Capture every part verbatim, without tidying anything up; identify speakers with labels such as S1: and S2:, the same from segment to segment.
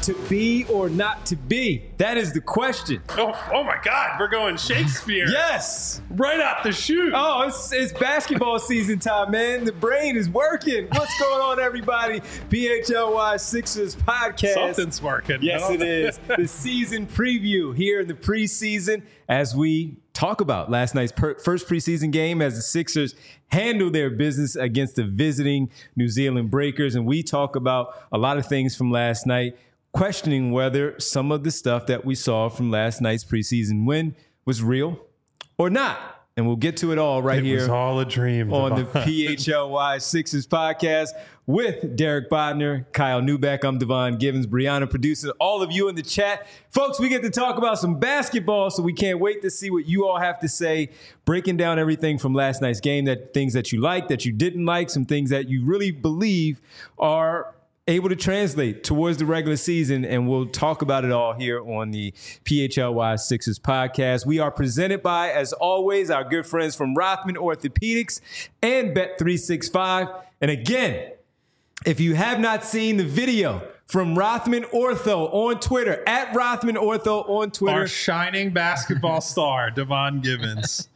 S1: To be or not to be? That is the question.
S2: Oh, oh my God, we're going Shakespeare.
S1: Yes.
S2: Right out the chute.
S1: Oh, it's, it's basketball season time, man. The brain is working. What's going on, everybody? P H L Y Sixers podcast.
S2: Something's working.
S1: Yes,
S2: no?
S1: it is. The season preview here in the preseason as we talk about last night's per- first preseason game as the Sixers handle their business against the visiting New Zealand Breakers. And we talk about a lot of things from last night, questioning whether some of the stuff that we saw from last night's preseason win was real or not. And we'll get to it all right
S2: it
S1: here.
S2: It was all a dream.
S1: On the P H L Y Sixers podcast with Derek Bodner, Kyle Newbeck. I'm Devon Givens, Brianna producing all of you in the chat. Folks, we get to talk about some basketball, so we can't wait to see what you all have to say, breaking down everything from last night's game, that things that you liked, that you didn't like, some things that you really believe are able to translate towards the regular season, and we'll talk about it all here on the P H L Y Sixers podcast. We are presented by, as always, our good friends from Rothman Orthopedics and Bet three sixty-five. And again, if you have not seen the video from Rothman Ortho on Twitter, at Rothman Ortho on Twitter.
S2: Our shining basketball star, Devon Givens.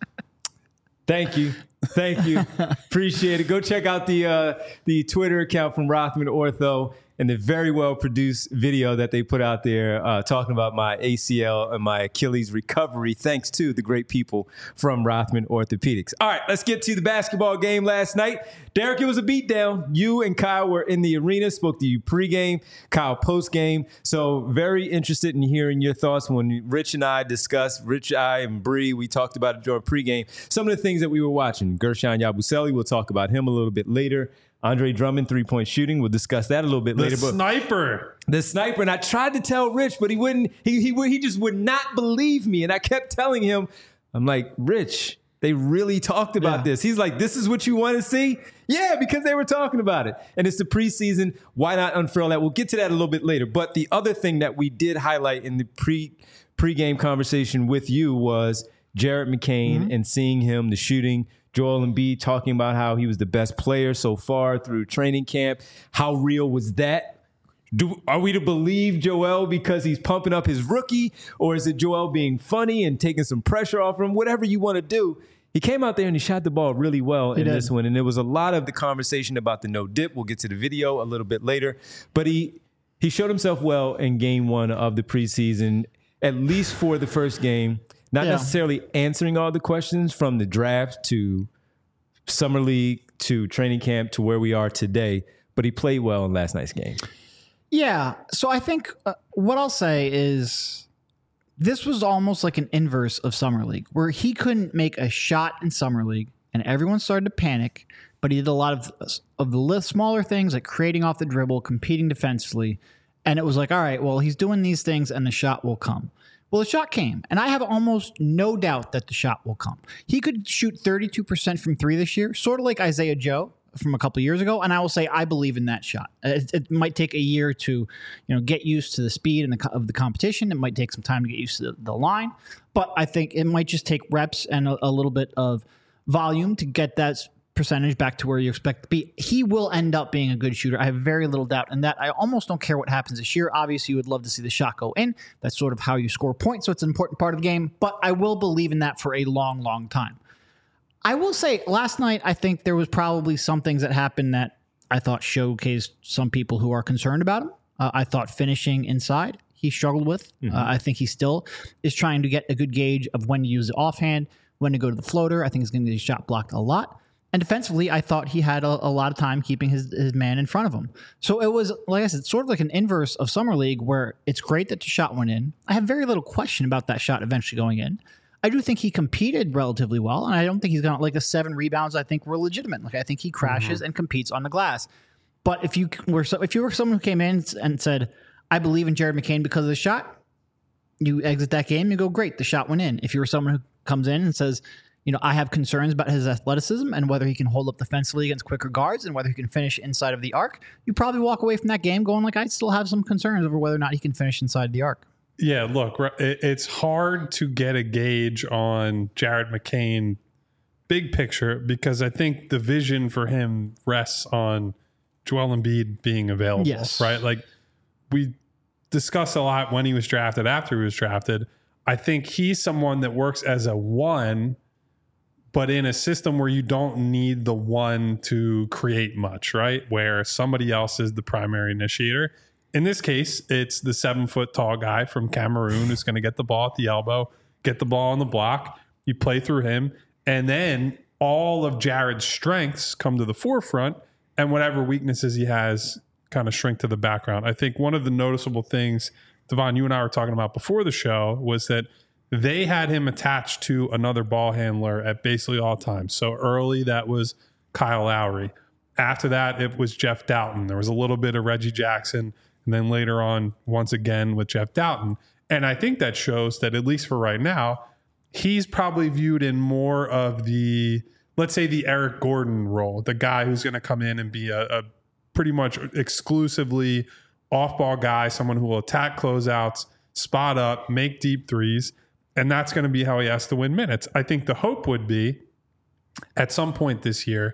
S1: Thank you. Thank you. Appreciate it. Go check out the uh, the Twitter account from Rothman Ortho and the very well produced video that they put out there uh, talking about my A C L and my Achilles recovery, thanks to the great people from Rothman Orthopedics. All right, let's get to the basketball game last night. Derek, it was a beatdown. You and Kyle were in the arena, spoke to you pregame, Kyle postgame. So very interested in hearing your thoughts when Rich and I discussed, Rich, I, and Bree, we talked about it during pregame, some of the things that we were watching. Gershon Yabusele, we'll talk about him a little bit later. Andre Drummond, three-point shooting. We'll discuss that a little bit
S2: the
S1: later.
S2: The sniper.
S1: But the sniper. And I tried to tell Rich, but he wouldn't. He, he, he just would not believe me. And I kept telling him, I'm like, Rich, they really talked about yeah. this. He's like, this is what you want to see? Yeah, because they were talking about it. And it's the preseason. Why not unfurl that? We'll get to that a little bit later. But the other thing that we did highlight in the pre pregame conversation with you was Jared McCain mm-hmm. and seeing him, the shooting. Joel Embiid talking about how he was the best player so far through training camp. How real was that? Do, are we to believe Joel because he's pumping up his rookie, or is it Joel being funny and taking some pressure off him? Whatever you want to do. He came out there and he shot the ball really well he in did. this one. And there was a lot of the conversation about the no dip. We'll get to the video a little bit later. But he he showed himself well in game one of the preseason, at least for the first game. Not yeah. necessarily answering all the questions from the draft to summer league to training camp to where we are today, but he played well in last night's game.
S3: Yeah. So I think uh, what I'll say is this was almost like an inverse of summer league, where he couldn't make a shot in summer league and everyone started to panic, but he did a lot of, of the smaller things like creating off the dribble, competing defensively. And it was like, all right, well, he's doing these things and the shot will come. Well, the shot came, and I have almost no doubt that the shot will come. He could shoot thirty-two percent from three this year, sort of like Isaiah Joe from a couple of years ago, and I will say I believe in that shot. It, it might take a year to, you know, get used to the speed and the, of the competition. It might take some time to get used to the, the line, but I think it might just take reps and a, a little bit of volume to get that percentage back to where you expect to be. He will end up being a good shooter. I have very little doubt in that. I almost don't care what happens this year. Obviously, you would love to see the shot go in. That's sort of how you score points, so it's an important part of the game, but I will believe in that for a long, long time. I will say, last night, I think there was probably some things that happened that I thought showcased some people who are concerned about him. Uh, I thought finishing inside, he struggled with. Mm-hmm. Uh, I think he still is trying to get a good gauge of when to use the offhand, when to go to the floater. I think he's going to get his shot blocked a lot. And defensively, I thought he had a, a lot of time keeping his, his man in front of him. So it was, like I said, sort of like an inverse of Summer League where it's great that the shot went in. I have very little question about that shot eventually going in. I do think he competed relatively well, and I don't think he's got like the seven rebounds I think were legitimate. Like I think he crashes mm-hmm. and competes on the glass. But if you were so, if you were someone who came in and said, I believe in Jared McCain because of the shot, you exit that game, you go, great, the shot went in. If you were someone who comes in and says, you know, I have concerns about his athleticism and whether he can hold up defensively against quicker guards and whether he can finish inside of the arc, you probably walk away from that game going like, I still have some concerns over whether or not he can finish inside the arc.
S2: Yeah, look, it's hard to get a gauge on Jared McCain big picture because I think the vision for him rests on Joel Embiid being available,
S3: yes.
S2: right? Like we discussed a lot when he was drafted, after he was drafted. I think he's someone that works as a one, but in a system where you don't need the one to create much, right? Where somebody else is the primary initiator. In this case, it's the seven foot tall guy from Cameroon who's going to get the ball at the elbow, get the ball on the block. You play through him, and then all of Jared's strengths come to the forefront, and whatever weaknesses he has kind of shrink to the background. I think one of the noticeable things, Devon, you and I were talking about before the show, was that they had him attached to another ball handler at basically all times. So early, that was Kyle Lowry. After that, it was Jeff Doughton. There was a little bit of Reggie Jackson, and then later on, once again, with Jeff Doughton. And I think that shows that, at least for right now, he's probably viewed in more of the, let's say, the Eric Gordon role, the guy who's going to come in and be a, a pretty much exclusively off-ball guy, someone who will attack closeouts, spot up, make deep threes, and that's going to be how he has to win minutes. I think the hope would be, at some point this year,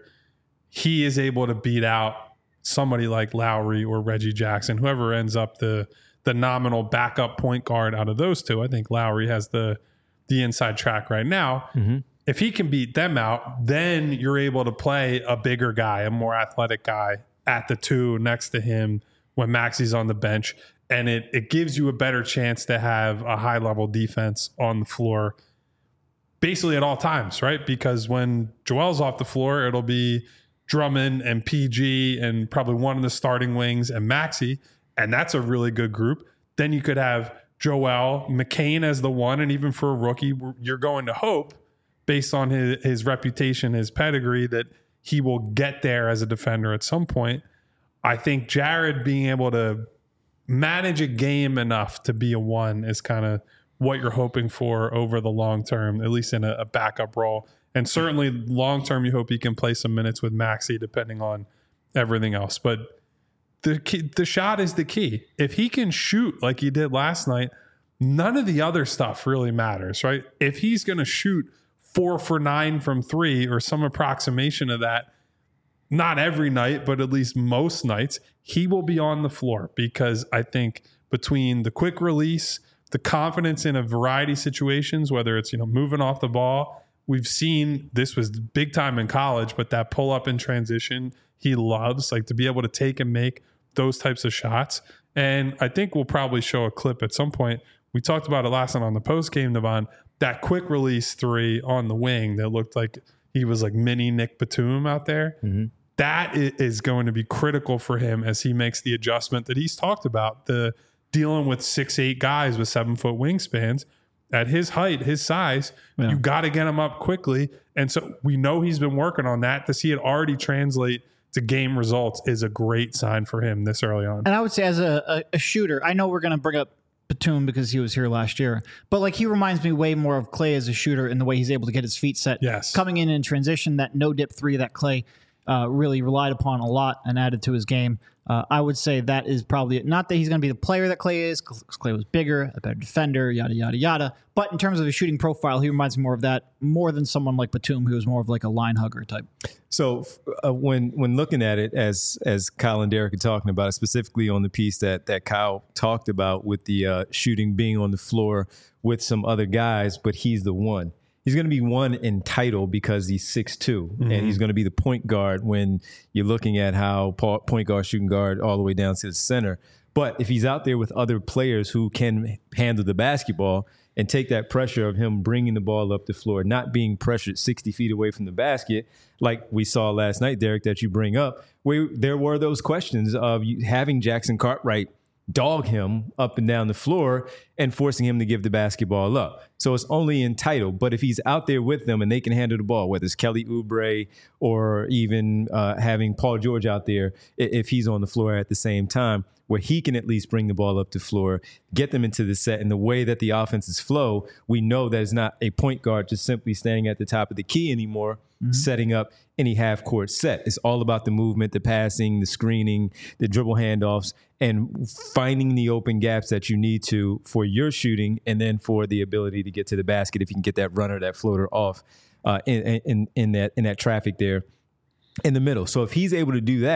S2: he is able to beat out somebody like Lowry or Reggie Jackson, whoever ends up the the nominal backup point guard out of those two. I think Lowry has the the inside track right now. Mm-hmm. If he can beat them out, then you're able to play a bigger guy, a more athletic guy at the two next to him when Maxi's on the bench. And it, it gives you a better chance to have a high level defense on the floor basically at all times, right? Because when Joel's off the floor, it'll be Drummond and P G and probably one of the starting wings and Maxi. And that's a really good group. Then you could have Joel, McCain as the one, and even for a rookie, you're going to hope, based on his, his reputation, his pedigree, that he will get there as a defender at some point. I think Jared being able to manage a game enough to be a one is kind of what you're hoping for over the long term, at least in a, a backup role. And certainly long term, you hope he can play some minutes with Maxi, depending on everything else. But The key, the shot is the key. If he can shoot like he did last night, none of the other stuff really matters, right? If he's going to shoot four for nine from three or some approximation of that, not every night, but at least most nights, he will be on the floor, because I think between the quick release, the confidence in a variety of situations, whether it's, you know, moving off the ball, we've seen this was big time in college, but that pull up in transition, he loves, like, to be able to take and make those types of shots. And I think we'll probably show a clip at some point. We talked about it last night on the post game, Devon, that quick release three on the wing that looked like he was like mini Nick Batum out there. Mm-hmm. That is going to be critical for him as he makes the adjustment that he's talked about, the dealing with six, eight guys with seven foot wingspans. At his height, his size, yeah. You got to get him up quickly. And so we know he's been working on that. To see it already translate to game results is a great sign for him this early on.
S3: And I would say, as a, a, a shooter, I know we're going to bring up Batum because he was here last year, but like, he reminds me way more of Clay as a shooter in the way he's able to get his feet set.
S2: Yes.
S3: Coming in in transition, that no dip three that Clay uh, really relied upon a lot and added to his game. Uh, I would say that is probably it. Not that he's going to be the player that Clay is, because Clay was bigger, a better defender, yada, yada, yada. But in terms of his shooting profile, he reminds me more of that, more than someone like Batum, who is more of like a line hugger type.
S1: So uh, when when looking at it, as as Kyle and Derek are talking about it, specifically on the piece that, that Kyle talked about with the uh, shooting being on the floor with some other guys, but he's the one. He's going to be one in title because he's six two, mm-hmm. and he's going to be the point guard when you're looking at how point guard, shooting guard, all the way down to the center. But if he's out there with other players who can handle the basketball and take that pressure of him bringing the ball up the floor, not being pressured sixty feet away from the basket, like we saw last night, Derek, that you bring up, where there were those questions of you having Jackson Cartwright dog him up and down the floor and forcing him to give the basketball up. So it's only entitled. But if he's out there with them and they can handle the ball, whether it's Kelly Oubre or even uh, having Paul George out there, if he's on the floor at the same time, where he can at least bring the ball up the floor, get them into the set. And the way that the offenses flow, we know that it's not a point guard just simply standing at the top of the key anymore, mm-hmm. setting up any half-court set. It's all about the movement, the passing, the screening, the dribble handoffs, and finding the open gaps that you need to for your shooting, and then for the ability to get to the basket if you can get that runner, that floater off uh, in, in, in, that, in that traffic there in the middle. So if he's able to do that,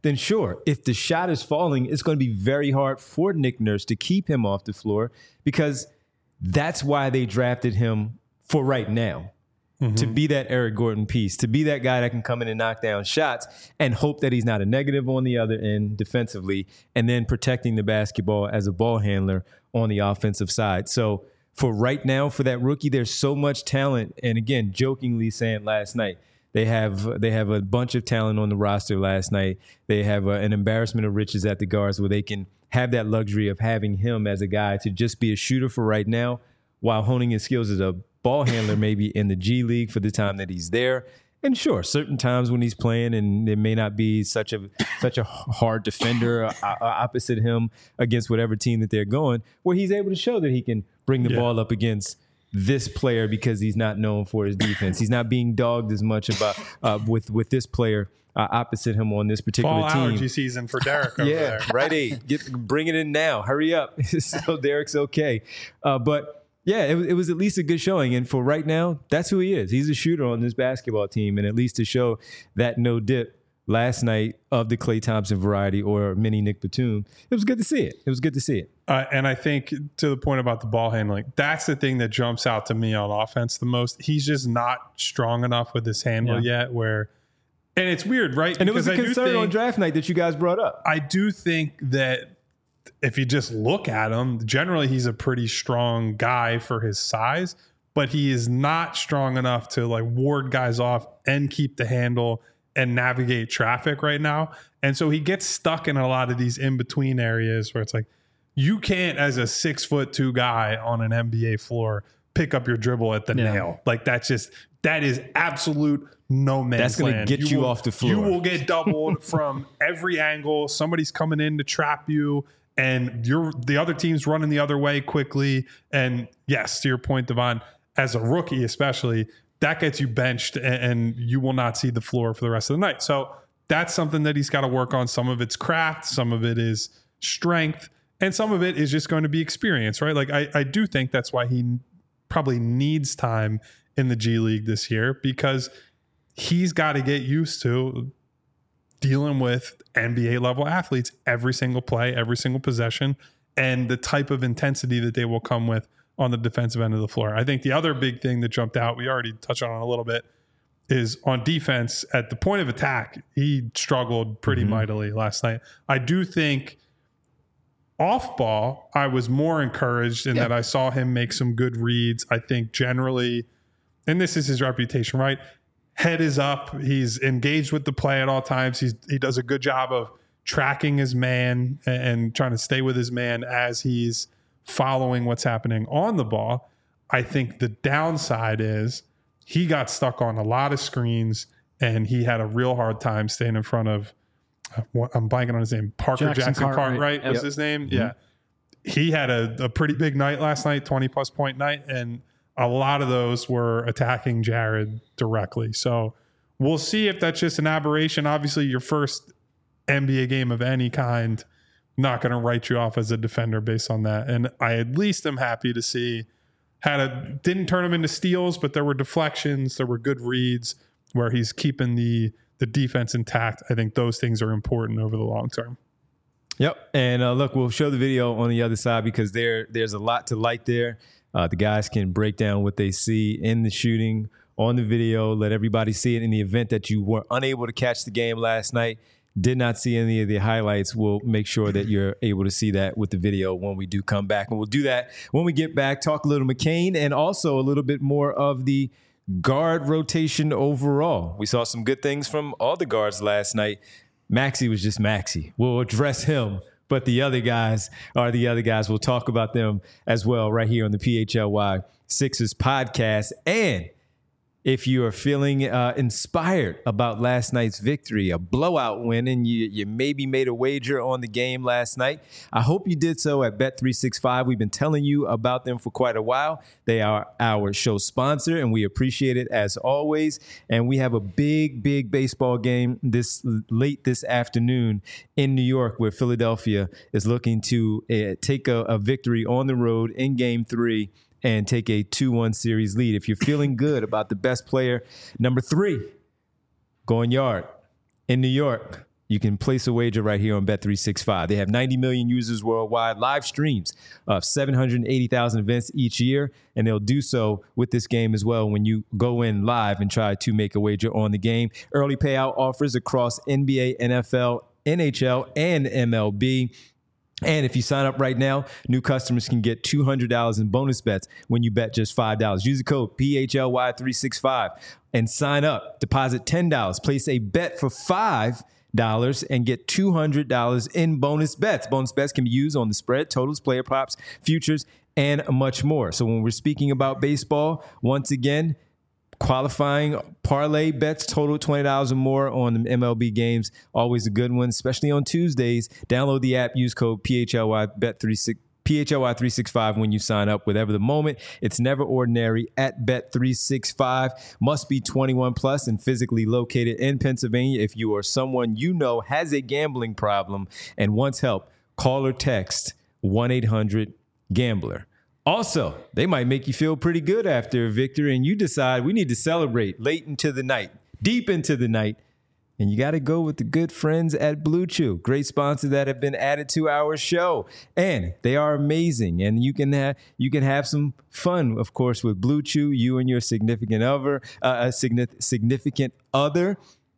S1: then sure. If the shot is falling, it's going to be very hard for Nick Nurse to keep him off the floor because that's why they drafted him for right now. Mm-hmm. To be that Eric Gordon piece, to be that guy that can come in and knock down shots and hope that he's not a negative on the other end defensively, and then protecting the basketball as a ball handler on the offensive side. So for right now, for that rookie, there's so much talent. And again, jokingly saying last night, they have they have a bunch of talent on the roster last night. They have a, an embarrassment of riches at the guards where they can have that luxury of having him as a guy to just be a shooter for right now while honing his skills as a ball handler maybe in the G League for the time that he's there. And sure, certain times when he's playing and there may not be such a such a hard defender uh, opposite him against whatever team that they're going, where he's able to show that he can bring the yeah. ball up against this player because he's not known for his defense. He's not being dogged as much about uh, with with this player uh, opposite him on this particular
S2: Fall
S1: team.
S2: Allergy season for Derek over
S1: yeah,
S2: there.
S1: right. Eight. Get bring it in now. Hurry up. So Derek's okay. Uh, but yeah, it, it was at least a good showing. And for right now, that's who he is. He's a shooter on this basketball team. And at least to show that no dip last night of the Klay Thompson variety or mini Nick Batum, it was good to see it. It was good to see it.
S2: Uh, and I think to the point about the ball handling, that's the thing that jumps out to me on offense the most. He's just not strong enough with his handle yeah. yet where, and it's weird, right?
S1: And
S2: because
S1: it was a
S2: I
S1: concern
S2: think,
S1: on draft night that you guys brought up.
S2: I do think that if you just look at him, generally he's a pretty strong guy for his size, but he is not strong enough to like ward guys off and keep the handle and navigate traffic right now. And so he gets stuck in a lot of these in-between areas where it's like, you can't, as a six foot two guy on an N B A floor, pick up your dribble at the yeah. nail. Like that's just, that is absolute no man's
S1: That's going
S2: land.
S1: to get you,
S2: you will,
S1: off the floor.
S2: You will get doubled from every angle. Somebody's coming in to trap you. And you're the other team's running the other way quickly. And yes, to your point, Devon, as a rookie especially, that gets you benched and, and you will not see the floor for the rest of the night. So that's something that he's got to work on. Some of it's craft, some of it is strength, and some of it is just going to be experience, right? Like I, I do think that's why he probably needs time in the G League this year, because he's got to get used to dealing with N B A level athletes every single play, every single possession, and the type of intensity that they will come with on the defensive end of the floor. I think the other big thing that jumped out, we already touched on it a little bit, is on defense at the point of attack. He struggled pretty mm-hmm. mightily last night. I do think off ball, I was more encouraged in yeah. that I saw him make some good reads. I think generally, and this is his reputation, right? Head is up. He's engaged with the play at all times. He's, he does a good job of tracking his man and, and trying to stay with his man as he's following what's happening on the ball. I think the downside is he got stuck on a lot of screens and he had a real hard time staying in front of, uh, I'm blanking on his name, Parker Jackson, Jackson Cartwright, Cartwright was yep. his name. Mm-hmm. Yeah. He had a, a pretty big night last night, twenty plus point night. And a lot of those were attacking Jared directly. So we'll see if that's just an aberration. Obviously, your first N B A game of any kind, not going to write you off as a defender based on that. And I at least am happy to see had a didn't turn him into steals, but there were deflections, there were good reads where he's keeping the the defense intact. I think those things are important over the long term.
S1: Yep. And uh, look, we'll show the video on the other side because there there's a lot to like there. Uh, the guys can break down what they see in the shooting on the video, let everybody see it. In the event that you were unable to catch the game last night, did not see any of the highlights, we'll make sure that you're able to see that with the video when we do come back. And we'll do that when we get back, talk a little McCain and also a little bit more of the guard rotation overall. We saw some good things from all the guards last night. Maxey was just Maxey. We'll address him. But the other guys are the other guys. We'll talk about them as well right here on the P H L Y Sixers podcast. And if you are feeling uh, inspired about last night's victory, a blowout win, and you, you maybe made a wager on the game last night, I hope you did so at Bet three sixty-five. We've been telling you about them for quite a while. They are our show sponsor, and we appreciate it as always. And we have a big, big baseball game this late this afternoon in New York, where Philadelphia is looking to uh, take a, a victory on the road in Game Three and take a two one series lead. If you're feeling good about the best player, number three, going yard in New York, you can place a wager right here on Bet three sixty-five. They have ninety million users worldwide, live streams of seven hundred eighty thousand events each year, and they'll do so with this game as well when you go in live and try to make a wager on the game. Early payout offers across N B A, N F L, N H L, and M L B. And if you sign up right now, new customers can get two hundred dollars in bonus bets when you bet just five dollars. Use the code P H L Y three sixty-five and sign up. Deposit ten dollars. Place a bet for five dollars and get two hundred dollars in bonus bets. Bonus bets can be used on the spread, totals, player props, futures, and much more. So when we're speaking about baseball, once again, qualifying parlay bets total twenty dollars or more on the M L B games. Always a good one, especially on Tuesdays. Download the app, use code P H L Y bet three sixty-five. P H L Y three sixty-five when you sign up, whatever the moment. It's never ordinary at Bet three sixty-five. Must be twenty-one plus and physically located in Pennsylvania. If you or someone you know has a gambling problem and wants help, call or text one eight hundred gambler. Also, they might make you feel pretty good after a victory and you decide we need to celebrate late into the night, deep into the night. And you got to go with the good friends at Blue Chew. Great sponsors that have been added to our show. And they are amazing. And you can have you can have some fun, of course, with Blue Chew. You and your significant other, uh, a significant other.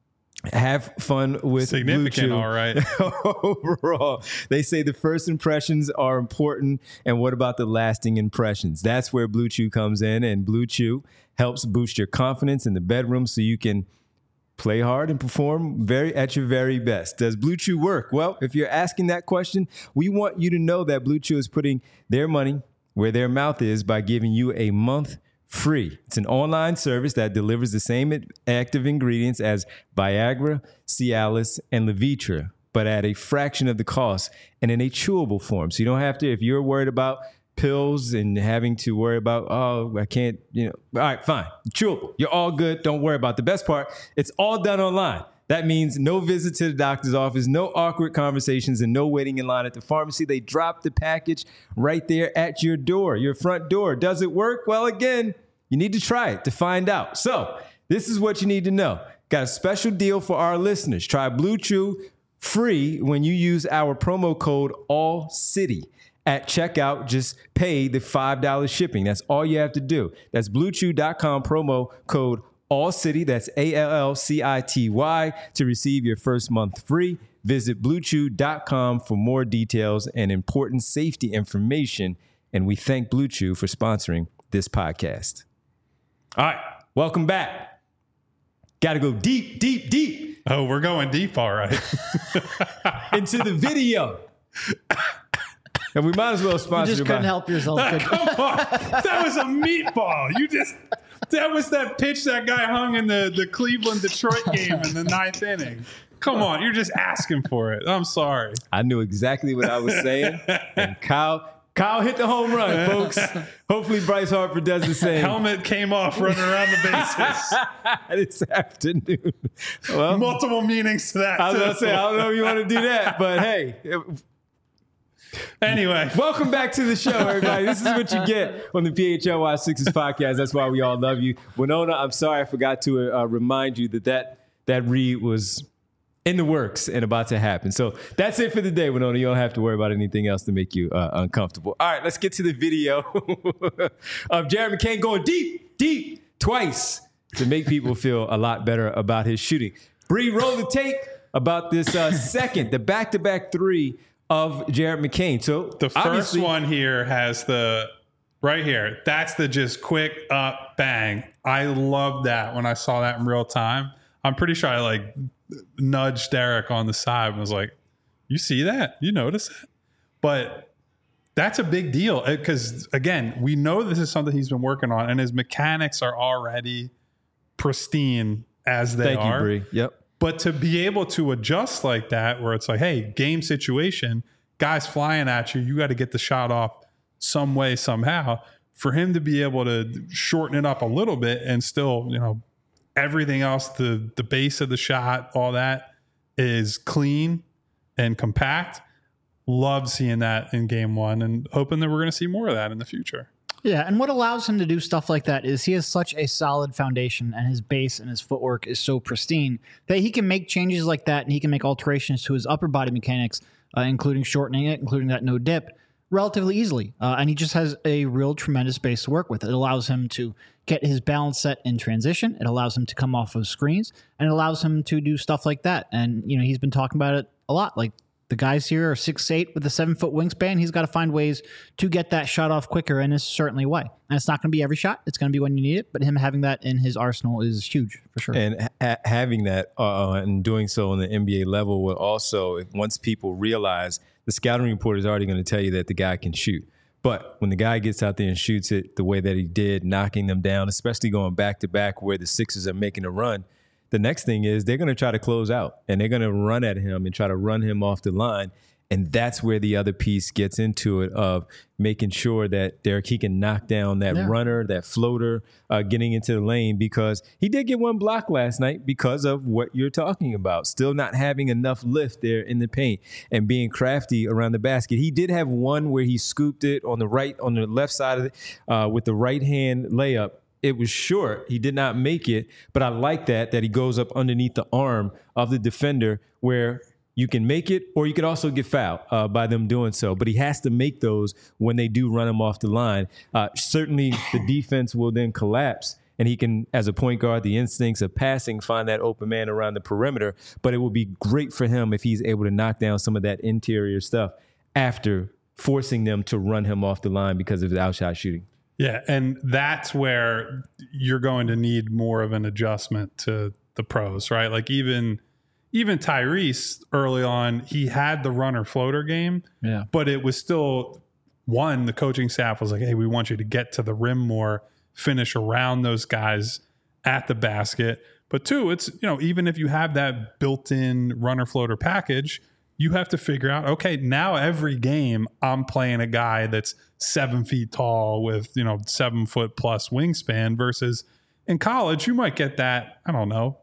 S1: Have fun with
S2: significant,
S1: Blue Chew.
S2: All right.
S1: Overall, they say the first impressions are important. And what about the lasting impressions? That's where Blue Chew comes in. And Blue Chew helps boost your confidence in the bedroom so you can play hard and perform very at your very best. Does Blue Chew work? Well, if you're asking that question, we want you to know that Blue Chew is putting their money where their mouth is by giving you a month free. It's an online service that delivers the same active ingredients as Viagra, Cialis, and Levitra, but at a fraction of the cost and in a chewable form. So you don't have to, if you're worried about pills and having to worry about, oh, I can't, you know, all right, fine. Chewable. You're all good. Don't worry about the best part. It's all done online. That means no visit to the doctor's office, no awkward conversations, and no waiting in line at the pharmacy. They drop the package right there at your door, your front door. Does it work? Well, again, you need to try it to find out. So this is what you need to know. Got a special deal for our listeners. Try Blue Chew free when you use our promo code ALLCITY. At checkout, just pay the five dollars shipping. That's all you have to do. That's blue chew dot com promo code ALLCITY. That's A L L C I T Y to receive your first month free. Visit blue chew dot com for more details and important safety information. And we thank Blue Chew for sponsoring this podcast. All right, welcome back. Got to go deep, deep, deep.
S2: Oh, we're going deep, all right.
S1: Into the video. And we might as well sponsor.
S3: You just couldn't help yourself.
S2: Come on. That was a meatball. You just, that was that pitch that guy hung in the, the Cleveland-Detroit game in the ninth inning. Come on. You're just asking for it. I'm sorry.
S1: I knew exactly what I was saying. And Kyle, Kyle hit the home run, folks. Hopefully Bryce Harper does the same.
S2: Helmet came off running around the bases.
S1: This afternoon. Well,
S2: multiple meanings to that.
S1: I was
S2: too.
S1: going to say, I don't know if you want to do that, but hey. It,
S2: Anyway,
S1: welcome back to the show, everybody. This is what you get on the P H L Y Sixers podcast. That's why we all love you. Winona, I'm sorry I forgot to uh, remind you that, that that read was in the works and about to happen. So that's it for the day, Winona. You don't have to worry about anything else to make you uh, uncomfortable. All right, let's get to the video of Jared McCain going deep, deep, twice to make people feel a lot better about his shooting. Bree, roll the tape about this uh, second, the back-to-back three of Jared McCain. So
S2: the first one here has the right here. That's the just quick up bang. I love that when I saw that in real time. I'm pretty sure I like nudged Derek on the side and was like, you see that? You notice that? But that's a big deal because, again, we know this is something he's been working on and his mechanics are already pristine as they
S1: Thank
S2: are.
S1: you, Bree. Yep.
S2: But to be able to adjust like that, where it's like, hey, game situation, guys flying at you, you got to get the shot off some way, somehow. For him to be able to shorten it up a little bit and still, you know, everything else, the the base of the shot, all that is clean and compact. Love seeing that in game one and hoping that we're going to see more of that in the future.
S3: Yeah, and what allows him to do stuff like that is he has such a solid foundation, and his base and his footwork is so pristine that he can make changes like that, and he can make alterations to his upper body mechanics, uh, including shortening it, including that no dip, relatively easily. Uh, and he just has a real tremendous base to work with. It allows him to get his balance set in transition. It allows him to come off of screens, and it allows him to do stuff like that. And, you know, he's been talking about it a lot. Like, the guys here are six eight with a seven-foot wingspan. He's got to find ways to get that shot off quicker in a certainly way. And it's not going to be every shot. It's going to be when you need it. But him having that in his arsenal is huge, for sure.
S1: And ha- having that uh, and doing so on the N B A level will also, if once people realize, the scouting report is already going to tell you that the guy can shoot. But when the guy gets out there and shoots it the way that he did, knocking them down, especially going back-to-back where the Sixers are making a run, the next thing is they're going to try to close out, and they're going to run at him and try to run him off the line. And that's where the other piece gets into it, of making sure that Derek, he can knock down that
S3: Yeah.
S1: runner, that floater, uh, getting into the lane, because he did get one block last night because of what you're talking about, still not having enough lift there in the paint and being crafty around the basket. He did have one where he scooped it on the right, on the left side of it uh, with the right hand layup. It was short. He did not make it, but I like that, that he goes up underneath the arm of the defender where you can make it, or you could also get fouled uh, by them doing so. But he has to make those when they do run him off the line. Uh, certainly the defense will then collapse, and he can, as a point guard, the instincts of passing, find that open man around the perimeter. But it will be great for him if he's able to knock down some of that interior stuff after forcing them to run him off the line because of his outshot shooting.
S2: Yeah, and that's where you're going to need more of an adjustment to the pros, right? Like even even Tyrese early on, he had the runner floater game,
S3: Yeah.
S2: but it was still, one, the coaching staff was like, hey, we want you to get to the rim more, finish around those guys at the basket. But two, it's, you know, even if you have that built-in runner floater package, you have to figure out, okay, now every game I'm playing a guy that's seven feet tall with, you know, seven foot plus wingspan, versus in college, you might get that, I don't know,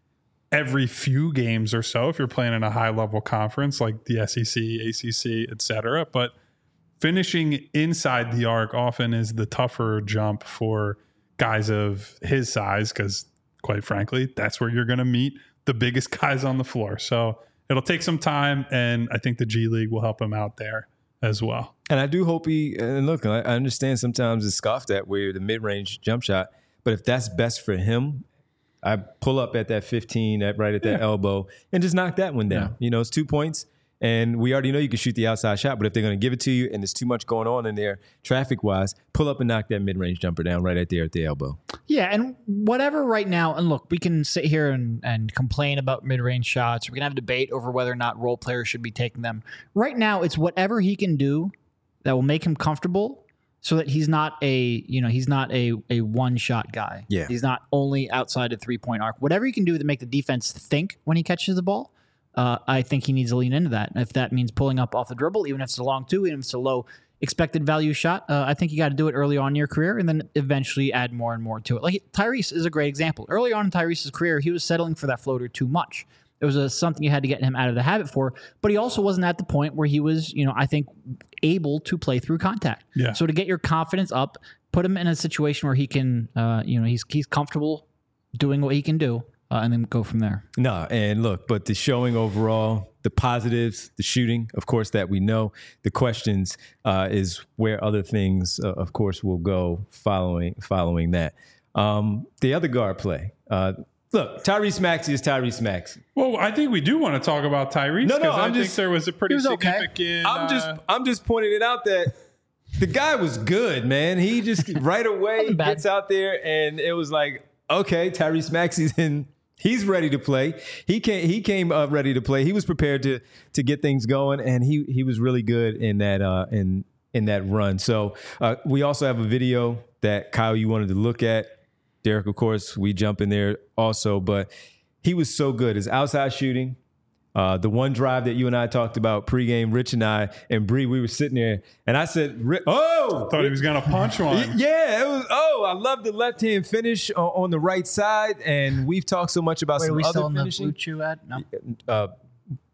S2: every few games or so if you're playing in a high level conference like the S E C, A C C, et cetera. But finishing inside the arc often is the tougher jump for guys of his size, because quite frankly, that's where you're going to meet the biggest guys on the floor. So it'll take some time, and I think the G League will help him out there as well.
S1: And I do hope he, and look, I understand sometimes it's scoffed at where the mid-range jump shot, but if that's best for him, I pull up at that fifteen, at right at that yeah. elbow, and just knock that one down. Yeah. You know, it's two points, and we already know you can shoot the outside shot, but if they're going to give it to you and there's too much going on in there traffic-wise, pull up and knock that mid-range jumper down right at there at the elbow.
S3: Yeah, and whatever right now, and look, we can sit here and, and complain about mid-range shots. We can have a debate over whether or not role players should be taking them. Right now, it's whatever he can do that will make him comfortable, so that he's not a, you know, he's not a, a one-shot guy.
S1: Yeah.
S3: He's not only outside the three-point arc. Whatever he can do to make the defense think when he catches the ball, uh, I think he needs to lean into that. And if that means pulling up off the dribble, even if it's a long two, even if it's a low expected value shot, uh, I think you got to do it early on in your career and then eventually add more and more to it. Like Tyrese is a great example. Early on in Tyrese's career, he was settling for that floater too much. It was a, something you had to get him out of the habit for, but he also wasn't at the point where he was, you know, I think able to play through contact.
S2: Yeah.
S3: So to get your confidence up, put him in a situation where he can, uh, you know, he's he's comfortable doing what he can do, uh, and then go from there.
S1: No, and look, but the showing overall, the positives, the shooting, of course, that we know. The questions uh, is where other things, uh, of course, will go following following that. Um, the other guard play. Uh, Look, Tyrese Maxey is Tyrese Maxey.
S2: Well, I think we do want to talk about Tyrese.
S1: No, no,
S2: I
S1: I'm
S2: think
S1: just,
S2: there was a pretty
S3: was
S2: significant.
S3: Okay.
S1: I'm
S2: uh,
S1: just, I'm just pointing it out that the guy was good, man. He just right away gets out there, and it was like, okay, Tyrese Maxey's in. He's ready to play. He came, he came up ready to play. He was prepared to to get things going, and he he was really good in that uh, in in that run. So uh, we also have a video that Kyle, you wanted to look at. Derek, of course, we jump in there also, but he was so good. His outside shooting, uh, the one drive that you and I talked about pregame, Rich and I and Bree, we were sitting there, and I said, "Oh,
S2: thought he was going to punch one."
S1: Yeah, it was. Oh, I love the left hand finish on, on the right side, and we've talked so much about
S3: Wait,
S1: some
S3: are we
S1: other
S3: still in
S1: finishing.
S3: the Blue Chew ad? No.
S1: Uh,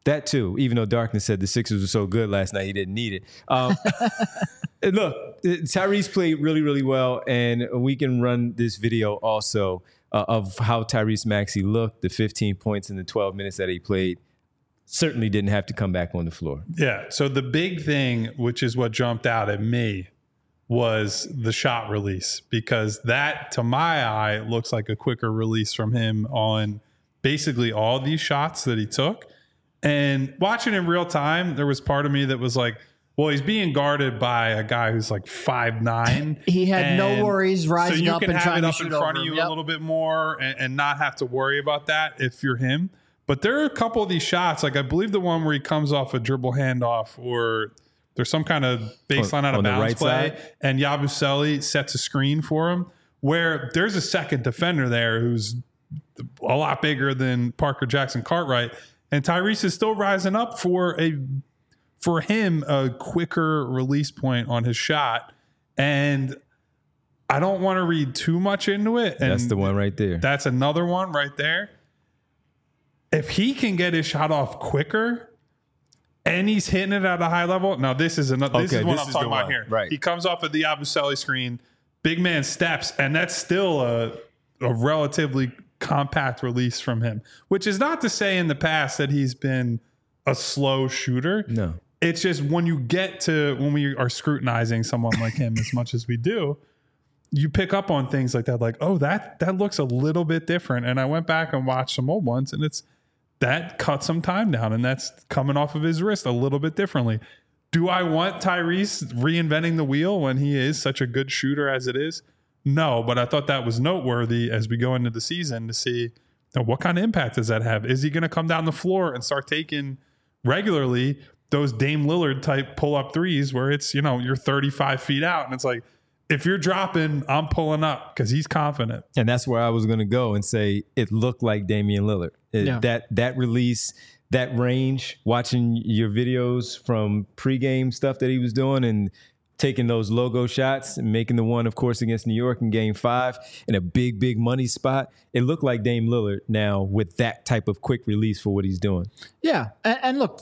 S1: That too, even though Darkness said the Sixers were so good last night, he didn't need it. Um, look, Tyrese played really, really well, and we can run this video also uh, of how Tyrese Maxey looked, the fifteen points in the twelve minutes that he played. Certainly didn't have to come back on the floor.
S2: Yeah, so the big thing, which is what jumped out at me, was the shot release, because that, to my eye, looks like a quicker release from him on basically all these shots that he took. And watching in real time, there was part of me that was like, well, he's being guarded by a guy who's like five nine.
S3: He had no worries rising up and trying to shoot over him. So you can have it up in front of you yep. a little bit more and, and not have to worry about that if you're him. But there are a couple of these shots, like I believe the one where he comes off a dribble handoff, or there's some kind of baseline
S1: on,
S2: out of bounds
S1: right
S2: play,
S1: side.
S2: And Yabusele sets a screen for him, where there's a second defender there who's a lot bigger than Parker Jackson Cartwright, and Tyrese is still rising up for a for him a quicker release point on his shot. And I don't want to read too much into it. And
S1: that's the one right there.
S2: That's another one right there. If he can get his shot off quicker and he's hitting it at a high level. Now, this is another. This
S1: okay,
S2: is what
S1: this
S2: I'm
S1: is
S2: talking
S1: the
S2: about
S1: one.
S2: here.
S1: Right.
S2: He comes off of the Yabusele screen, big man steps, and that's still a, a relatively compact release from him, which is not to say in the past that he's been a slow shooter.
S1: No.
S2: It's just when you get to when we are scrutinizing someone like him as much as we do, you pick up on things like that, like, oh, that that looks a little bit different. And I went back and watched some old ones, and it's that cut some time down, and that's coming off of his wrist a little bit differently. Do I want Tyrese reinventing the wheel when he is such a good shooter as it is? No, but I thought that was noteworthy as we go into the season to see, you know, what kind of impact does that have? Is he going to come down the floor and start taking regularly those Dame Lillard type pull up threes where it's, you know, you're thirty-five feet out and it's like, if you're dropping, I'm pulling up, because he's confident.
S1: And that's where I was going to go and say it looked like Damian Lillard. It,
S3: Yeah.
S1: That that release, that range, watching your videos from pregame stuff that he was doing and taking those logo shots and making the one, of course, against New York in game five in a big, big money spot. It looked like Dame Lillard now with that type of quick release for what he's doing.
S3: Yeah. And, and look,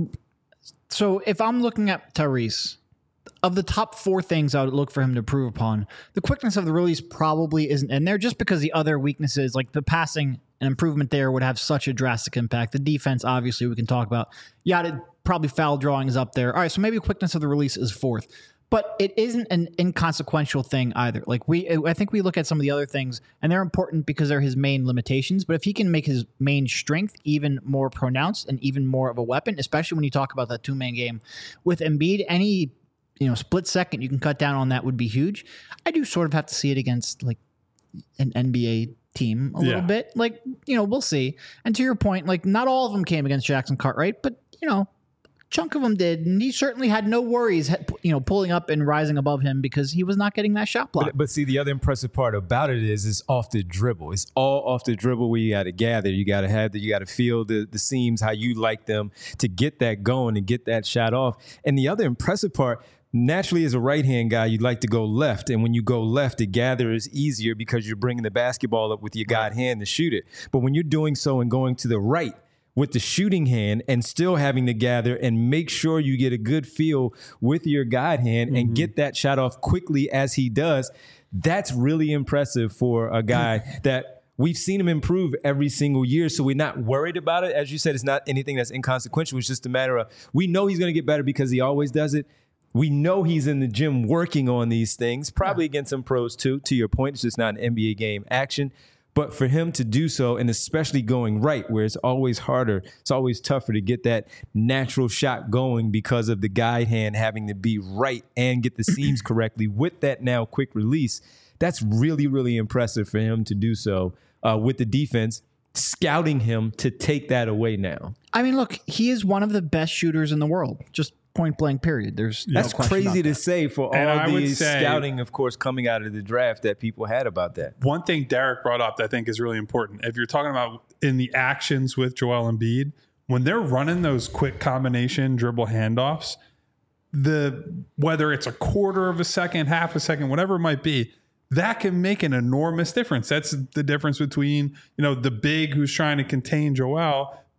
S3: so if I'm looking at Tyrese, of the top four things I would look for him to improve upon, the quickness of the release probably isn't in there, just because the other weaknesses, like the passing, an improvement there would have such a drastic impact. The defense, obviously, we can talk about. Yeah, probably foul drawing is up there. All right, so maybe quickness of the release is fourth. But it isn't an inconsequential thing either. Like we, I think we look at some of the other things, and they're important because they're his main limitations. But if he can make his main strength even more pronounced and even more of a weapon, especially when you talk about that two-man game with Embiid, any you know split second you can cut down on that would be huge. I do sort of have to see it against like an N B A team a
S2: Yeah.
S3: little bit. Like, you know, we'll see. And to your point, like not all of them came against Jackson Cartwright, but you know, chunk of them did, and he certainly had no worries, you know, pulling up and rising above him because he was not getting that shot block.
S1: But, but see, the other impressive part about it is it's off the dribble. It's all off the dribble where you got to gather. You got to have the, you got to feel the, the seams, how you like them to get that going and get that shot off. And the other impressive part, naturally, as a right-hand guy, you'd like to go left. And when you go left, the gather is easier because you're bringing the basketball up with your guide hand to shoot it. But when you're doing so and going to the right, with the shooting hand and still having to gather and make sure you get a good feel with your guide hand and get that shot off quickly as he does, that's really impressive for a guy that we've seen him improve every single year. So we're not worried about it. As you said, it's not anything that's inconsequential. It's just a matter of we know he's going to get better because he always does it. We know he's in the gym working on these things, probably against some pros too. To your point, it's just not an N B A game action. But for him to do so, and especially going right, where it's always harder, it's always tougher to get that natural shot going because of the guide hand having to be right and get the seams correctly with that now quick release. That's really, really impressive for him to do so uh, with the defense scouting him to take that away now.
S3: I mean, look, he is one of the best shooters in the world. Just point blank period. There's no
S1: That's
S3: question
S1: crazy
S3: about
S1: to
S3: that.
S1: say for
S2: And
S1: all
S2: I would
S1: the
S2: say-
S1: scouting, of course, coming out of the draft that people had about that.
S2: One thing Derek brought up that I think is really important. If you're talking about in the actions with Joel Embiid, when they're running those quick combination dribble handoffs, the whether it's a quarter of a second, half a second, whatever it might be, that can make an enormous difference. That's the difference between, you know, the big who's trying to contain Joel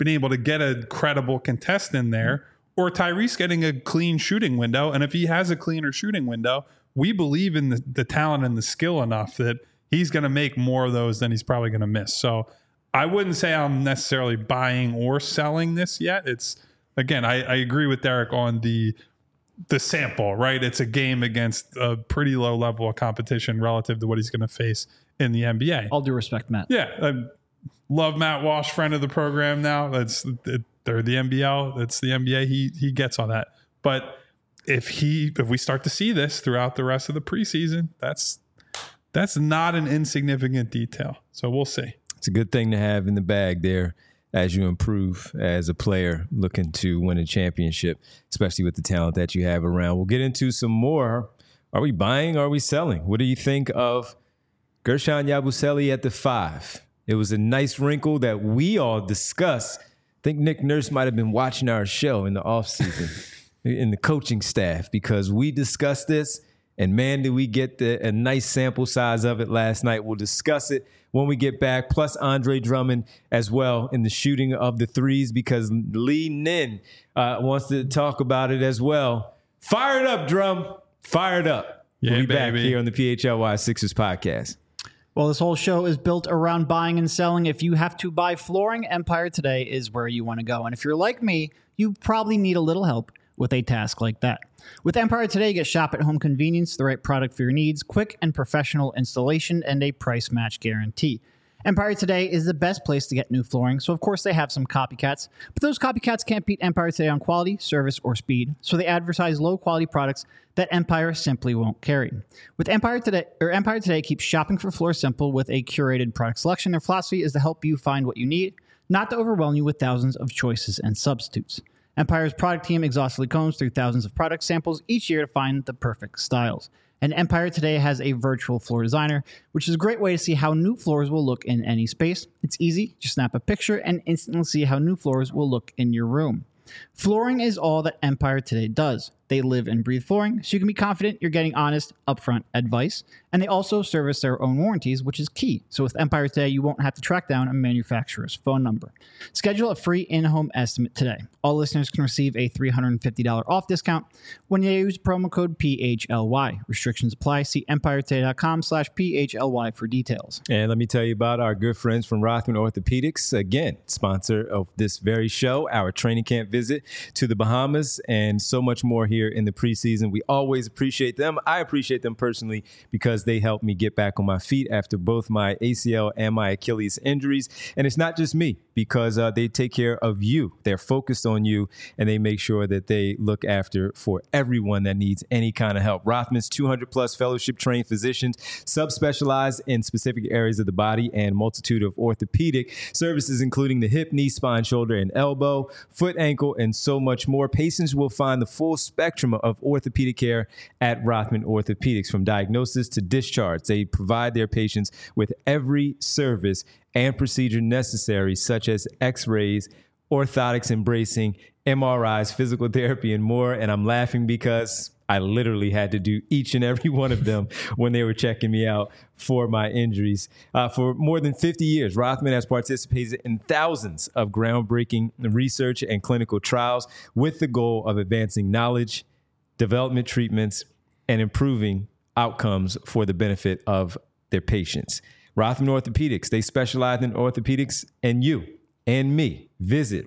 S2: been able to get a credible contest in there, or Tyrese getting a clean shooting window. And if he has a cleaner shooting window, we believe in the, the talent and the skill enough that he's going to make more of those than he's probably going to miss. So I wouldn't say I'm necessarily buying or selling this yet. It's, again, I, I agree with Derek on the the sample, right? It's a game against a pretty low level of competition relative to what he's going to face in the N B A.
S3: All due respect, Matt.
S2: Yeah. I love Matt Walsh, friend of the program now. That's it, they're the N B L. It's the N B A. He he gets on that. But if he if we start to see this throughout the rest of the preseason, that's that's not an insignificant detail. So we'll see.
S1: It's a good thing to have in the bag there as you improve as a player looking to win a championship, especially with the talent that you have around. We'll get into some more. Are we buying? Or are we selling? What do you think of Guerschon Yabusele at the five? It was a nice wrinkle that we all discussed. I think Nick Nurse might have been watching our show in the offseason in the coaching staff, because we discussed this, and man, did we get the, a nice sample size of it last night. We'll discuss it when we get back, plus Andre Drummond as well in the shooting of the threes, because Lee Nin uh, wants to talk about it as well. Fire it up, Drum. Fire it up.
S2: Yeah,
S1: we'll be
S2: baby.
S1: back here on the P H L Y Sixers podcast.
S3: Well, this whole show is built around buying and selling. If you have to buy flooring, Empire Today is where you want to go. And if you're like me, you probably need a little help with a task like that. With Empire Today, you get shop at home convenience, the right product for your needs, quick and professional installation, and a price match guarantee. Empire Today is the best place to get new flooring, so of course they have some copycats, but those copycats can't beat Empire Today on quality, service, or speed, so they advertise low-quality products that Empire simply won't carry. With Empire Today, or Empire Today keeps shopping for floor simple with a curated product selection. Their philosophy is to help you find what you need, not to overwhelm you with thousands of choices and substitutes. Empire's product team exhaustively combs through thousands of product samples each year to find the perfect styles. And Empire Today has a virtual floor designer, which is a great way to see how new floors will look in any space. It's easy. Just snap a picture and instantly see how new floors will look in your room. Flooring is all that Empire Today does. They live and breathe flooring, so you can be confident you're getting honest, upfront advice. And they also service their own warranties, which is key. So with Empire Today, you won't have to track down a manufacturer's phone number. Schedule a free in-home estimate today. All listeners can receive a three hundred fifty dollars off discount when you use promo code P H L Y. Restrictions apply. See empiretoday.com slash PHLY for details.
S1: And let me tell you about our good friends from Rothman Orthopedics. Again, sponsor of this very show, our training camp visit to the Bahamas, and so much more here in the preseason. We always appreciate them. I appreciate them personally because they helped me get back on my feet after both my A C L and my Achilles injuries. And it's not just me, because uh, they take care of you. They're focused on you, and they make sure that they look after for everyone that needs any kind of help. Rothman's two hundred plus fellowship trained physicians subspecialize in specific areas of the body and multitude of orthopedic services, including the hip, knee, spine, shoulder, and elbow, foot, ankle, and so much more. Patients will find the full spectrum of orthopedic care at Rothman Orthopedics. From diagnosis to discharge, they provide their patients with every service and procedure necessary, such as x-rays, orthotics and bracing, M R Is, physical therapy, and more. And I'm laughing because I literally had to do each and every one of them when they were checking me out for my injuries. Uh, for more than fifty years, Rothman has participated in thousands of groundbreaking research and clinical trials with the goal of advancing knowledge, development treatments, and improving outcomes for the benefit of their patients. Rothman Orthopedics, they specialize in orthopedics and you and me. Visit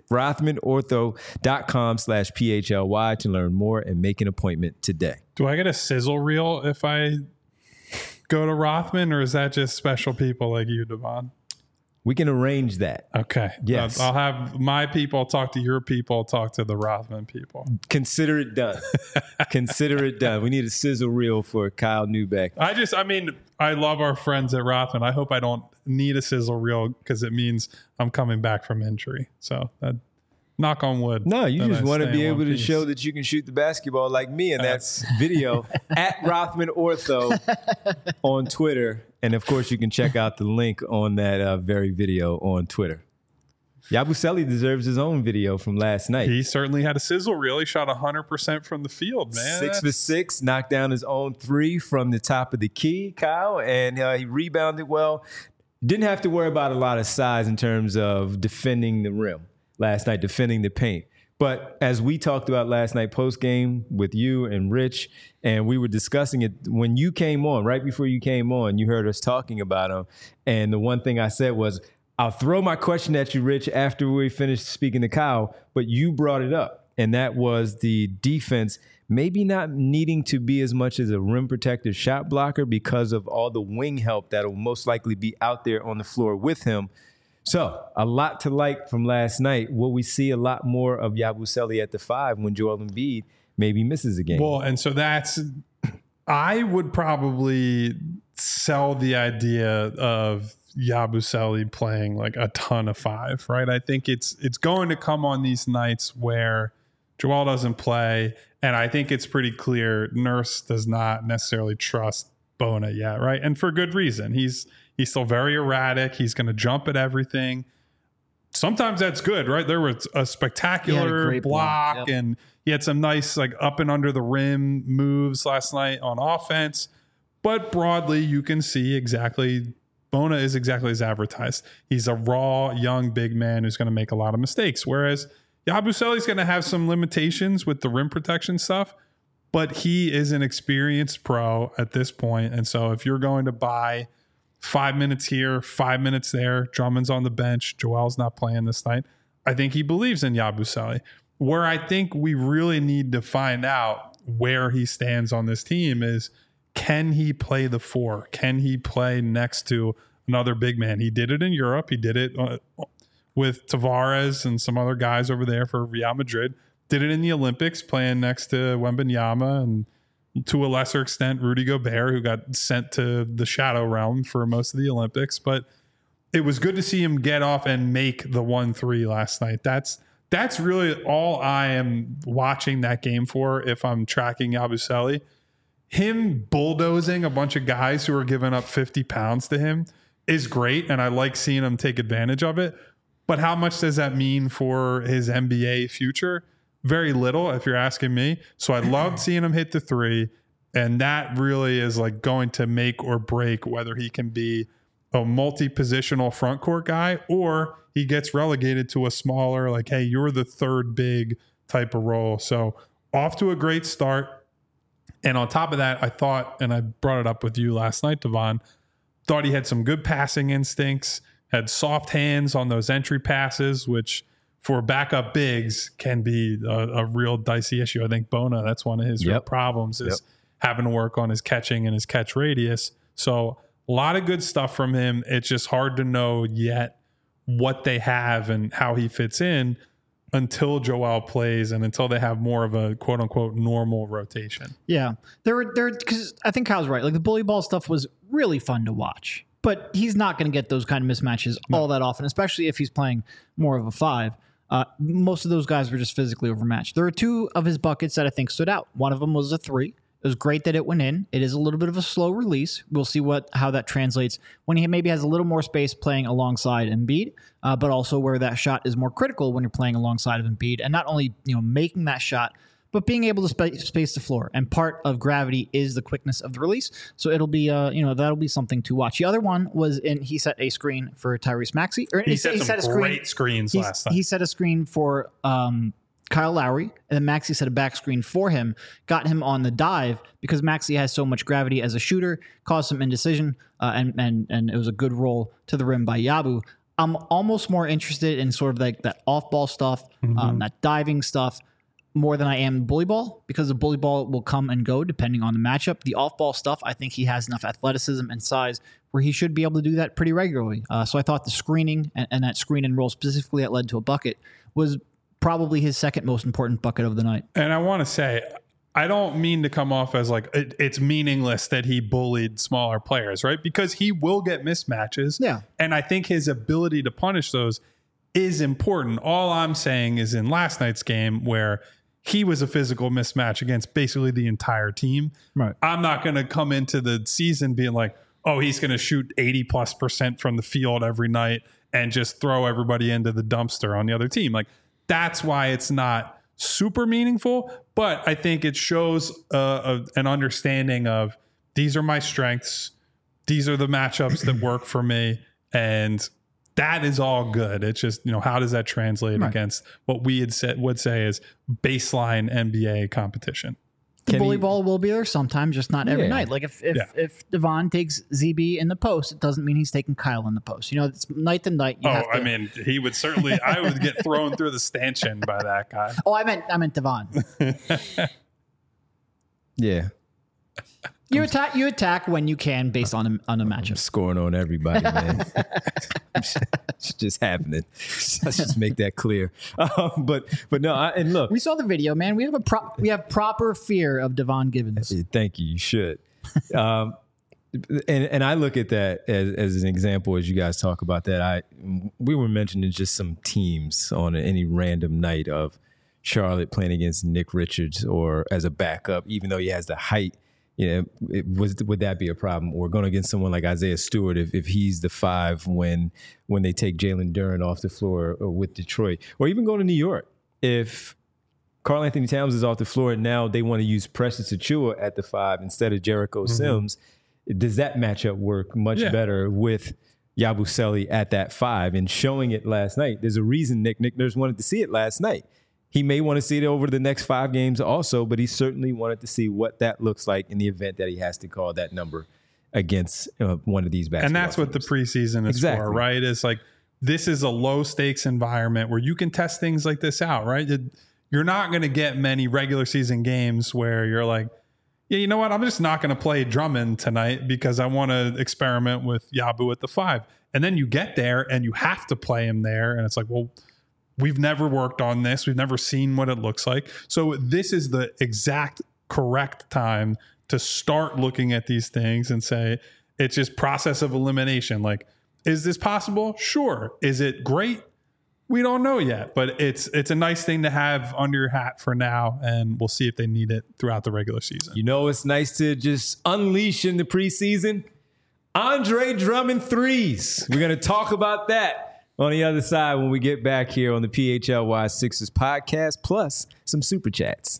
S1: rothmanortho.com slash PHLY to learn more and make an appointment today.
S2: Do I get a sizzle reel if I go to Rothman, or is that just special people like you, Devon?
S1: We can arrange that.
S2: Okay.
S1: Yes.
S2: I'll have my people talk to your people, talk to the Rothman people.
S1: Consider it done. Consider it done. We need a sizzle reel for Kyle Neubeck.
S2: I just, I mean, I love our friends at Rothman. I hope I don't need a sizzle reel because it means I'm coming back from injury. So that, knock on wood.
S1: No, you just
S2: I
S1: want to
S2: stay
S1: be
S2: in
S1: able
S2: one
S1: to
S2: piece.
S1: show that you can shoot the basketball like me in that video at Rothman Ortho on Twitter. And of course, you can check out the link on that uh, very video on Twitter. Yabusele deserves his own video from last night.
S2: He certainly had a sizzle reel. He shot one hundred percent from the field, man.
S1: Six for
S2: That's-
S1: six, knocked down his own three from the top of the key, Kyle, and uh, he rebounded well. Didn't have to worry about a lot of size in terms of defending the rim. last night defending the paint. But as we talked about last night post game with you and Rich, and we were discussing it when you came on, right before you came on, you heard us talking about him. And the one thing I said was, I'll throw my question at you, Rich, after we finish speaking to Kyle, but you brought it up. And that was the defense maybe not needing to be as much as a rim protector shot blocker because of all the wing help that will most likely be out there on the floor with him. So a lot to like from last night. Will we see a lot more of Yabusele at the five when Joel Embiid maybe misses a game?
S2: Well, and so that's, I would probably sell the idea of Yabusele playing like a ton of five, right? I think it's it's going to come on these nights where Joel doesn't play, and I think it's pretty clear Nurse does not necessarily trust Bona yet, right? And for good reason. He's he's still very erratic. He's going to jump at everything. Sometimes that's good, right? There was a spectacular
S3: a
S2: block,
S3: block. Yep.
S2: and he had some nice like up and under the rim moves last night on offense. But broadly, you can see exactly Bona is exactly as advertised. He's a raw, young, big man who's going to make a lot of mistakes. Whereas Yabusele is going to have some limitations with the rim protection stuff, but he is an experienced pro at this point. And so if you're going to buy five minutes here, five minutes there, Drummond's on the bench, Joel's not playing this night, I think he believes in Yabusele. Where I think we really need to find out where he stands on this team is, can he play the four? Can he play next to another big man? He did it in Europe. He did it uh, with Tavares and some other guys over there for Real Madrid. Did it in the Olympics, playing next to Wembanyama and to a lesser extent Rudy Gobert, who got sent to the shadow realm for most of the Olympics. But it was good to see him get off and make the one three last night. That's that's really all I am watching that game for if I'm tracking Yabusele. Him bulldozing a bunch of guys who are giving up fifty pounds to him is great, and I like seeing him take advantage of it. But how much does that mean for his N B A future? Very little, if you're asking me. So I loved seeing him hit the three, and that really is like going to make or break whether he can be a multi-positional front court guy or he gets relegated to a smaller, like, hey, you're the third big type of role. So off to a great start. And on top of that, I thought, and I brought it up with you last night, Devon, thought he had some good passing instincts, had soft hands on those entry passes, which for backup bigs can be a, a real dicey issue. I think Bona, that's one of his
S1: yep.
S2: real problems is
S1: yep.
S2: having to work on his catching and his catch radius. So a lot of good stuff from him. It's just hard to know yet what they have and how he fits in until Joel plays and until they have more of a quote unquote normal rotation.
S3: Yeah. There were there because I think Kyle's right. Like the bully ball stuff was really fun to watch. But he's not going to get those kind of mismatches no. all that often, especially if he's playing more of a five. Uh, most of those guys were just physically overmatched. There were two of his buckets that I think stood out. One of them was a three. It was great that it went in. It is a little bit of a slow release. We'll see what how that translates when he maybe has a little more space playing alongside Embiid, uh, but also where that shot is more critical when you're playing alongside of Embiid, and not only you know making that shot, but being able to sp- space the floor. And part of gravity is the quickness of the release. So it'll be uh you know that'll be something to watch. The other one was in he set a screen for Tyrese Maxey. Or
S2: he, he set
S3: he
S2: some
S3: set a screen,
S2: great screens last time.
S3: He set a screen for um. Kyle Lowry, and then Maxey set a back screen for him, got him on the dive because Maxey has so much gravity as a shooter, caused some indecision, uh, and and and it was a good roll to the rim by Yabu. I'm almost more interested in sort of like that off-ball stuff, mm-hmm. um, that diving stuff, more than I am bully ball, because the bully ball will come and go depending on the matchup. The off-ball stuff, I think he has enough athleticism and size where he should be able to do that pretty regularly. Uh, so I thought the screening and, and that screen and roll specifically that led to a bucket was probably his second most important bucket of the night.
S2: And I want to say, I don't mean to come off as like it, it's meaningless that he bullied smaller players, right? Because he will get mismatches.
S3: Yeah.
S2: And I think his ability to punish those is important. All I'm saying is in last night's game where he was a physical mismatch against basically the entire team.
S3: Right.
S2: I'm not going to come into the season being like, oh, he's going to shoot eighty plus percent from the field every night and just throw everybody into the dumpster on the other team. Like, that's why it's not super meaningful, but I think it shows uh, a, an understanding of these are my strengths. These are the matchups that work for me. And that is all good. It's just, you know, how does that translate right. against what we had said would say is baseline N B A competition?
S3: The
S1: Can
S3: bully
S1: he,
S3: ball will be there sometimes, just not every yeah. night. Like if if, yeah. if Devon takes Z B in the post, it doesn't mean he's taking Kyle in the post. You know, it's night to night. You
S2: oh,
S3: have to,
S2: I mean, he would certainly. I would get thrown through the stanchion by that guy.
S3: Oh, I meant I meant Devon.
S1: yeah.
S3: You attack. You attack when you can, based on a, on a matchup.
S1: I'm scoring on everybody, man. It's just happening. Let's just make that clear. Um, but but no, I, and look,
S3: we saw the video, man. We have a pro- we have proper fear of Devon Givens.
S1: Thank you. You should. Um, and and I look at that as as an example as you guys talk about that. I we were mentioning just some teams on any random night of Charlotte playing against Nick Richards or as a backup, even though he has the height. You know, it was would that be a problem? Or going against someone like Isaiah Stewart if, if he's the five when when they take Jalen Duren off the floor with Detroit, or even going to New York if Karl Anthony Towns is off the floor and now they want to use Precious Achiuwa at the five instead of Jericho mm-hmm. Sims. Does that matchup work much yeah. better with Yabusele at that five and showing it last night? There's a reason Nick Nick Nurse wanted to see it last night. He may want to see it over the next five games also, but he certainly wanted to see what that looks like in the event that he has to call that number against uh, one of these basketball
S2: And that's
S1: teams.
S2: what the preseason is
S1: exactly.
S2: for, right? It's like this is a low-stakes environment where you can test things like this out, right? You're not going to get many regular season games where you're like, yeah, you know what? I'm just not going to play Drummond tonight because I want to experiment with Yabu at the five. And then you get there and you have to play him there. And it's like, well, we've never worked on this. We've never seen what it looks like. So this is the exact correct time to start looking at these things and say, it's just process of elimination. Like, is this possible? Sure. Is it great? We don't know yet, but it's it's a nice thing to have under your hat for now, and we'll see if they need it throughout the regular season.
S1: You know, it's nice to just unleash in the preseason. Andre Drummond threes. We're going to talk about that on the other side when we get back here on the P H L Y Sixers podcast, plus some super chats.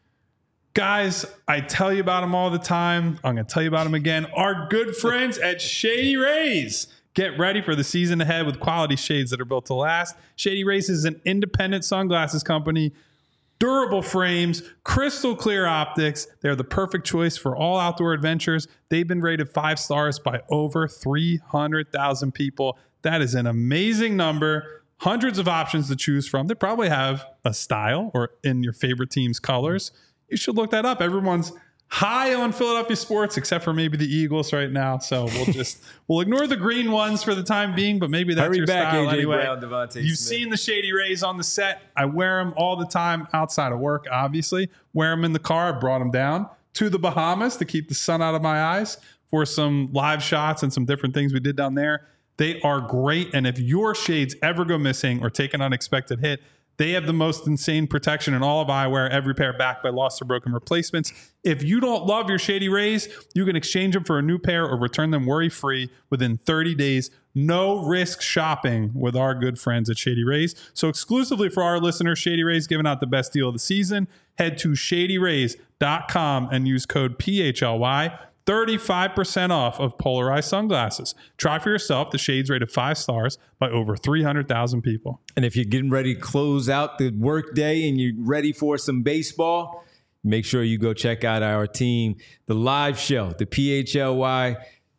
S2: Guys, I tell you about them all the time. I'm going to tell you about them again. Our good friends at Shady Rays. Get ready for the season ahead with quality shades that are built to last. Shady Rays is an independent sunglasses company. Durable frames, crystal clear optics. They're the perfect choice for all outdoor adventures. They've been rated five stars by over three hundred thousand people. That is an amazing number. Hundreds of options to choose from. They probably have a style or in your favorite team's colors. You should look that up. Everyone's high on Philadelphia sports, except for maybe the Eagles right now. So we'll just we'll ignore the green ones for the time being. But maybe that's
S1: Hurry
S2: your
S1: back,
S2: style
S1: A J
S2: anyway.
S1: Brown, Devontae
S2: You've
S1: Smith.
S2: seen the Shady Rays on the set. I wear them all the time outside of work. Obviously, wear them in the car. I brought them down to the Bahamas to keep the sun out of my eyes for some live shots and some different things we did down there. They are great. And if your shades ever go missing or take an unexpected hit, they have the most insane protection in all of eyewear, every pair backed by lost or broken replacements. If you don't love your Shady Rays, you can exchange them for a new pair or return them worry-free within thirty days. No risk shopping with our good friends at Shady Rays. So exclusively for our listeners, Shady Rays giving out the best deal of the season. Head to shady rays dot com and use code P H L Y. thirty-five percent off of polarized sunglasses. Try for yourself. The shades rated five stars by over three hundred thousand people.
S1: And if you're getting ready to close out the work day and you're ready for some baseball, make sure you go check out our team, the live show, the P H L Y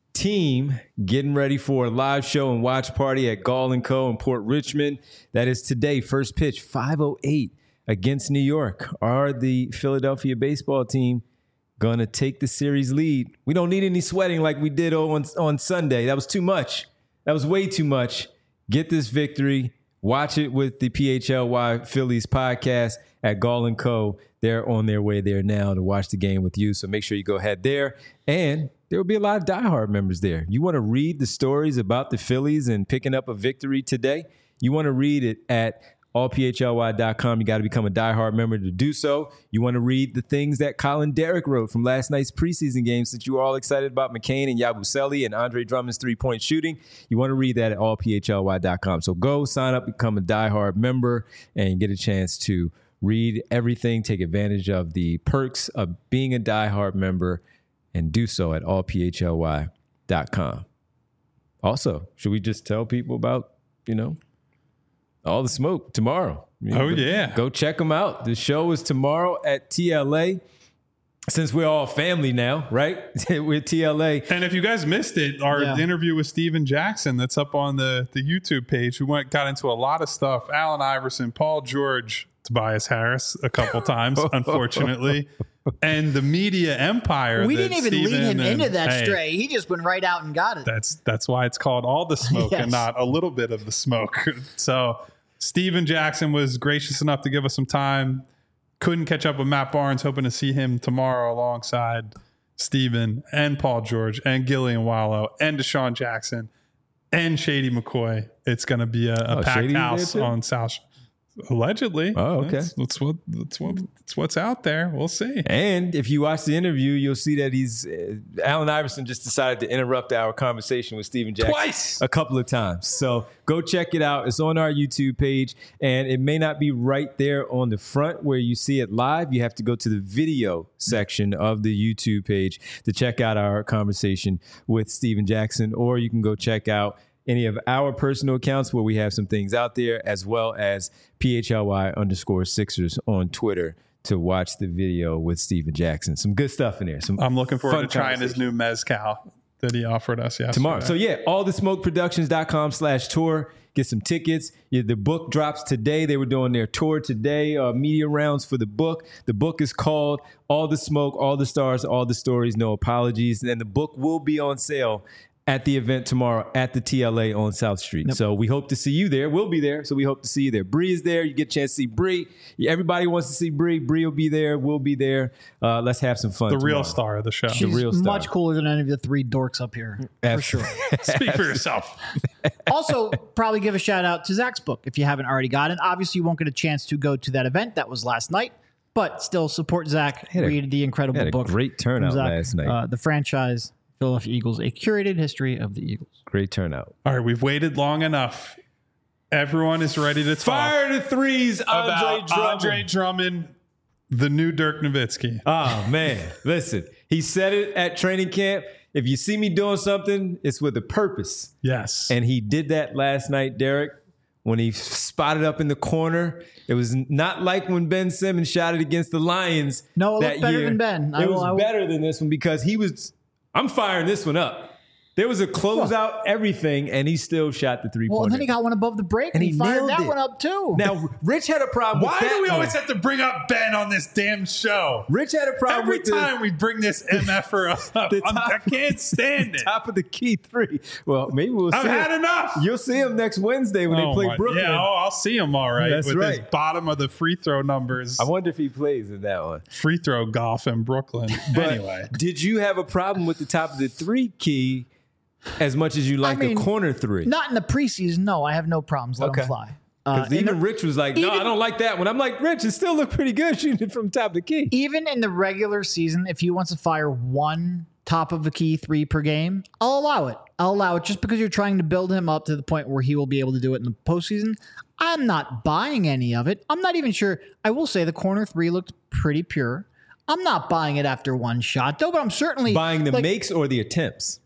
S1: team getting ready for a live show and watch party at Gall and Co. in Port Richmond. That is today. First pitch, five oh eight against New York. Are the Philadelphia baseball team going to take the series lead? We don't need any sweating like we did on, on Sunday. That was too much. That was way too much. Get this victory. Watch it with the P H L Y Phillies podcast at Gall and Co. They're on their way there now to watch the game with you. So make sure you go ahead there. And there will be a lot of diehard members there. You want to read the stories about the Phillies and picking up a victory today? You want to read it at all P H L Y dot com. You got to become a diehard member to do so. You want to read the things that Colin Derrick wrote from last night's preseason game, since you were all excited about McCain and Yabusele and Andre Drummond's three-point shooting. You want to read that at all P H L Y dot com. So go sign up, become a diehard member, and get a chance to read everything. Take advantage of the perks of being a diehard member, and do so at all P H L Y dot com. Also, should we just tell people about you know, All the Smoke tomorrow. You know,
S2: Oh,
S1: go,
S2: yeah.
S1: Go check them out. The show is tomorrow at T L A. Since we're all family now, right? We're T L A.
S2: And if you guys missed it, our
S3: Yeah.
S2: interview with Steven Jackson that's up on the, the YouTube page, we went got into a lot of stuff. Allen Iverson, Paul George, Tobias Harris a couple times, unfortunately. And the media empire.
S3: We
S2: that
S3: didn't even lead
S2: Steven
S3: him
S2: and-
S3: into that
S2: hey,
S3: stray. He just went right out and got it.
S2: That's that's why it's called All the Smoke
S3: Yes.
S2: and not a little bit of the smoke. So Steven Jackson was gracious enough to give us some time. Couldn't catch up with Matt Barnes, hoping to see him tomorrow alongside Steven and Paul George and Gillian Wallow and Deshaun Jackson and Shady McCoy. It's going to be a, a
S1: Oh,
S2: packed
S1: Shady's there
S2: house
S1: too?
S2: on South. Allegedly.
S1: Oh, okay.
S2: That's, that's what that's what that's what's out there. We'll see.
S1: And if you watch the interview, you'll see that he's uh, Allen Iverson just decided to interrupt our conversation with Steven Jackson
S2: Twice.
S1: a couple of times. So go check it out. It's on our YouTube page, and it may not be right there on the front where you see it live. You have to go to the video section of the YouTube page to check out our conversation with Steven Jackson, or you can go check out any of our personal accounts where we have some things out there, as well as P H L Y underscore Sixers on Twitter to watch the video with Steven Jackson. Some good stuff in there. Some
S2: I'm looking forward
S1: fun
S2: to trying his
S1: conversation.
S2: new mezcal that he offered us yesterday.
S1: Tomorrow. So yeah, all the smoke productions dot com slash tour. Get some tickets. Yeah, the book drops today. They were doing their tour today, uh, media rounds for the book. The book is called All the Smoke, All the Stars, All the Stories, No Apologies. And the book will be on sale at the event tomorrow at the T L A on South Street.
S3: Yep.
S1: So we hope to see you there. We'll be there. So we hope to see you there. Bree is there. You get a chance to see Bree. Everybody wants to see Bree. Bree will be there. We'll be there. Uh, let's have some fun
S2: the real
S1: tomorrow.
S2: star of the show.
S3: She's
S1: real star.
S3: much cooler than any of the three dorks up here, for sure.
S2: Speak for yourself.
S3: Also, probably give a shout out to Zach's book if you haven't already got it. Obviously, you won't get a chance to go to that event. That was last night, but still support Zach.
S1: Had a-
S3: Read the incredible
S1: had a
S3: book.
S1: great
S3: from
S1: turnout
S3: Zach.
S1: last night.
S3: Uh, the franchise, Philadelphia Eagles, a curated history of the Eagles.
S1: Great turnout.
S2: All right, we've waited long enough. Everyone is ready to talk
S1: Fire the threes, Andre
S2: about
S1: Drummond.
S2: Andre Drummond, the new Dirk Nowitzki.
S1: Oh, man. Listen, he said it at training camp. If you see me doing something, it's with a purpose.
S2: Yes.
S1: And he did that last night, Derek, when he spotted up in the corner. It was not like when Ben Simmons shot it against the Lions.
S3: No, it
S1: that
S3: looked better
S1: year.
S3: than Ben. I
S1: It
S3: will-
S1: was
S3: I will-
S1: better than this one because he was, I'm firing this one up. There was a closeout, everything, and he still shot the three-pointer.
S3: Well, and then he got one above the break, and,
S1: And
S3: he,
S1: he
S3: fired
S1: nailed
S3: that
S1: it.
S3: one up too.
S1: Now, Rich had a problem
S2: Why
S1: with that
S2: do we
S1: one.
S2: always have to bring up Ben on this damn show?
S1: Rich had a problem
S2: Every
S1: with the-
S2: time we bring this M F-er up,
S1: The
S2: I'm-
S1: top-
S2: I can't stand it.
S1: top of the key three. Well, maybe we'll
S2: I've
S1: see.
S2: had
S1: him.
S2: enough.
S1: You'll see him next Wednesday when
S2: Oh
S1: they play
S2: my-
S1: Brooklyn.
S2: Yeah, oh, I'll see him all right
S1: That's
S2: with his
S1: right.
S2: bottom of the free throw numbers.
S1: I wonder if he plays in that one.
S2: Free throw golf in Brooklyn.
S1: But
S2: anyway,
S1: did you have a problem with the top of the three key as much as you like
S3: mean,
S1: a corner three?
S3: Not in the preseason. No, I have no problems. Let
S1: Okay.
S3: him fly. Uh,
S1: Because
S3: in
S1: even
S3: the-
S1: Rich was like, no,
S3: even-
S1: I don't like that one. I'm like, Rich, it still looked pretty good shooting it from top of the key.
S3: even in the regular season, if he wants to fire one top of the key three per game, I'll allow it. I'll allow it just because you're trying to build him up to the point where he will be able to do it in the postseason. I'm not buying any of it. I'm not even sure. I will say the corner three looked pretty pure. I'm not buying it after one shot, though, but I'm certainly
S1: Buying the
S3: like,
S1: makes or the attempts?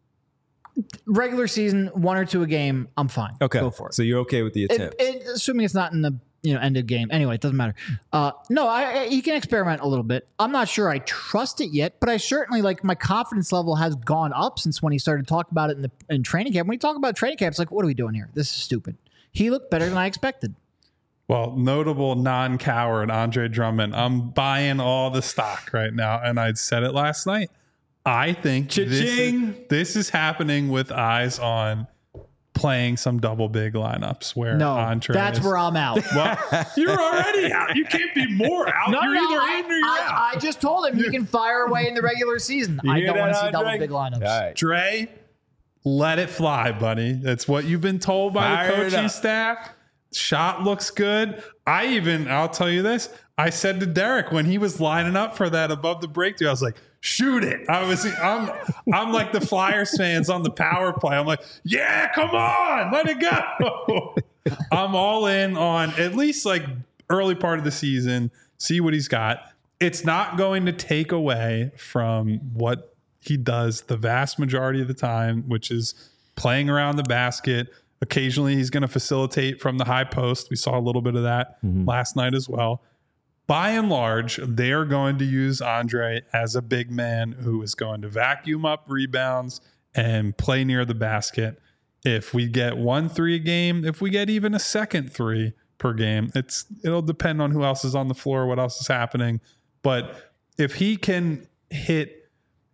S3: regular season, one or two a game, I'm fine.
S1: Okay.
S3: Go for it.
S1: So you're okay with the
S3: It-
S1: attempts.
S3: it- assuming it's not in the you know end of game. Anyway, it doesn't matter. Uh, no, I, I, he can experiment a little bit. I'm not sure I trust it yet, but I certainly like my confidence level has gone up since when he started talking about it in the in training camp. When he talk about training camp, it's like, what are we doing here? This is stupid. He looked better than I expected.
S2: well, notable non-coward Andre Drummond. I'm buying all the stock right now, and I said it last night. I think this
S1: Cha-ching.
S2: is, this is happening with eyes on playing some double big lineups where
S3: No,
S2: Andre
S3: that's
S2: is,
S3: where I'm out.
S2: well, you're already out. You can't be more out.
S3: No,
S2: you're
S3: no,
S2: either
S3: I,
S2: in or you're out.
S3: I, I just told him he can fire away in the regular season.
S1: You
S3: I
S1: hear
S3: don't want to
S1: that,
S3: see double
S1: Andre?
S3: big lineups.
S1: All right.
S2: Dre, let it fly, buddy. That's what you've been told by
S1: Fire
S2: the
S1: it
S2: coaching
S1: up.
S2: staff. Shot looks good. I even, I'll tell you this. I said to Derek when he was lining up for that above the breakthrough, I was like, shoot it. I was, I'm, I'm like the Flyers fans on the power play. I'm like, yeah, come on, let it go. I'm all in on at least like early part of the season, see what he's got. It's not going to take away from what he does the vast majority of the time, which is playing around the basket, Occasionally, he's going to facilitate from the high post. We saw a little bit of that mm-hmm. last night as well. By and large, they are going to use Andre as a big man who is going to vacuum up rebounds and play near the basket. If we get one three a game, if we get even a second three per game, it's it'll depend on who else is on the floor, what else is happening. But if he can hit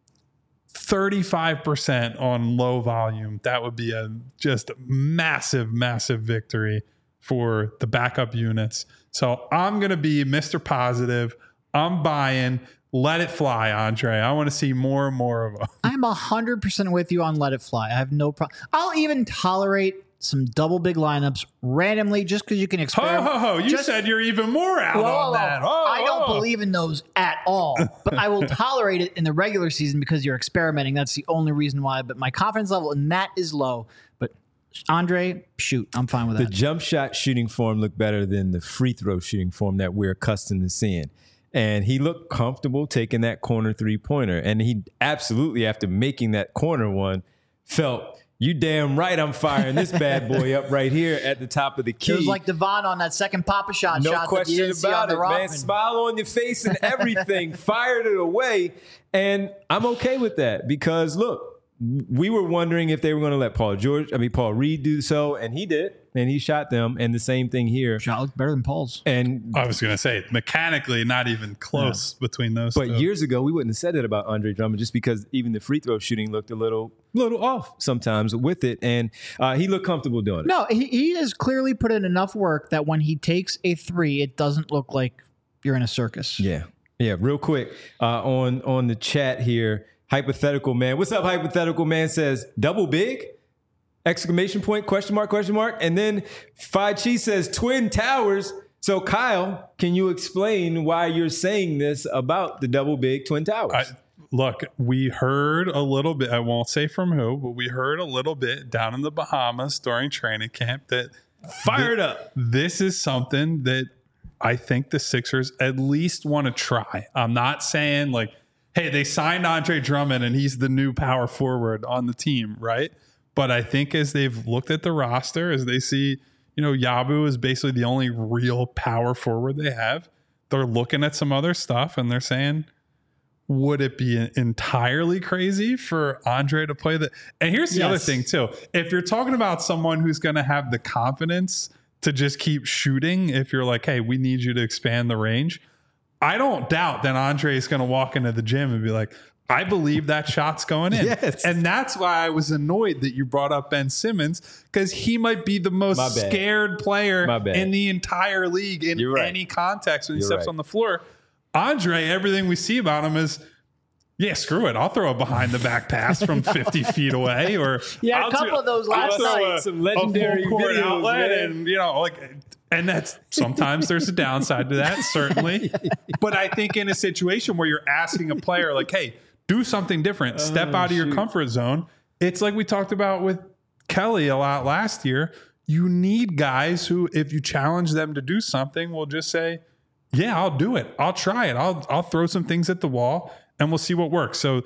S2: thirty-five percent on low volume, that would be a just massive, massive victory for the backup units. So I'm going to be Mister Positive. I'm buying. Let it fly, Andre. I want to see more and more of them.
S3: I'm one hundred percent with you on let it fly. I have no problem. I'll even tolerate some double big lineups randomly just because you can experiment.
S2: Ho, ho, ho. You just, said you're even more out whoa, on that. Oh,
S3: I don't oh. believe in those at all, but I will tolerate it in the regular season because you're experimenting. That's the only reason why. But my confidence level in that is low. But Andre, shoot, I'm fine with that.
S1: The jump shot shooting form looked better than the free throw shooting form that we're accustomed to seeing. And he looked comfortable taking that corner three-pointer. And he absolutely, after making that corner one, felt, you damn right I'm firing this bad boy up right here at the top of the key.
S3: It was like Devon on that second Papa Shot
S1: no
S3: shot
S1: question
S3: that you didn't
S1: about
S3: see on
S1: it,
S3: the
S1: man. Smile on your face and everything. Fired it away. And I'm okay with that because, look, we were wondering if they were going to let Paul George, I mean, Paul Reed do so, and he did, and he shot them, and the same thing here.
S3: Shot looked better than Paul's.
S1: And
S2: I was going to say, mechanically, not even close yeah. between those
S1: But
S2: two.
S1: years ago, we wouldn't have said that about Andre Drummond just because even the free throw shooting looked a little little off sometimes with it, and uh, he looked comfortable doing it.
S3: No, he, he has clearly put in enough work that when he takes a three, it doesn't look like you're in a circus.
S1: Yeah, yeah, real quick, uh, on, on the chat here, Hypothetical Man. What's up, Hypothetical Man says, double big? Exclamation point, question mark, question mark. And then Phi Chi says, Twin Towers. So, Kyle, can you explain why you're saying this about the double big Twin Towers?
S2: I, look, we heard a little bit, I won't say from who, but we heard a little bit down in the Bahamas during training camp that
S1: fired th- up.
S2: This is something that I think the Sixers at least want to try. I'm not saying like, hey, they signed Andre Drummond and he's the new power forward on the team, right? But I think as they've looked at the roster, as they see, you know, Yabu is basically the only real power forward they have, they're looking at some other stuff and they're saying, would it be entirely crazy for Andre to play the... And here's the yes. other thing, too. If you're talking about someone who's going to have the confidence to just keep shooting, if you're like, hey, we need you to expand the range... I don't doubt that Andre is going to walk into the gym and be like, I believe that shot's going in.
S1: Yes.
S2: And that's why I was annoyed that you brought up Ben Simmons, because he might be the most scared player in the entire league in right. any context when he You're steps right. on the floor. Andre, everything we see about him is, yeah, screw it. I'll throw a behind the back pass from fifty feet away. Or
S3: yeah,
S2: I'll
S3: a couple
S2: do,
S3: of those last night.
S1: Some legendary videos,
S2: outlet and, you know, like... And that's sometimes there's a downside to that, certainly. But I think in a situation where you're asking a player like, hey, do something different, step oh, out of shoot. your comfort zone. It's like we talked about with Kelly a lot last year. You need guys who, if you challenge them to do something, will just say, yeah, I'll do it. I'll try it. I'll, I'll throw some things at the wall and we'll see what works. So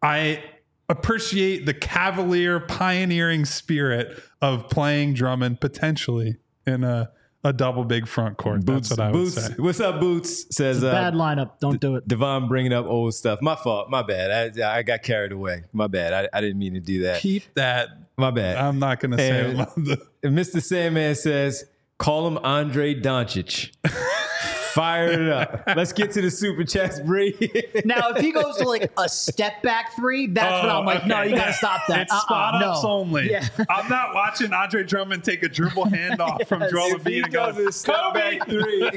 S2: I appreciate the cavalier, pioneering spirit of playing Drummond potentially in a A double big front court.
S1: Boots,
S2: That's what I
S1: Boots,
S2: would say.
S1: What's up, Boots? Says
S3: uh, bad lineup. Don't do it.
S1: Devon bringing up old stuff. My fault. My bad. I, I got carried away. My bad. I, I didn't mean to do that.
S2: Keep that.
S1: My bad.
S2: I'm not going to say
S1: it. And Mister Sandman says, call him Andre Doncic. Fire it up. Let's get to the super chats, Bree.
S3: Now, if he goes to like a step back three, that's oh, when I'm like, okay. no, you got to stop that.
S2: It's uh-uh, spot ups no. only. Yeah. I'm not watching Andre Drummond take a dribble handoff yes. from Joel Embiid and go,
S1: step back three.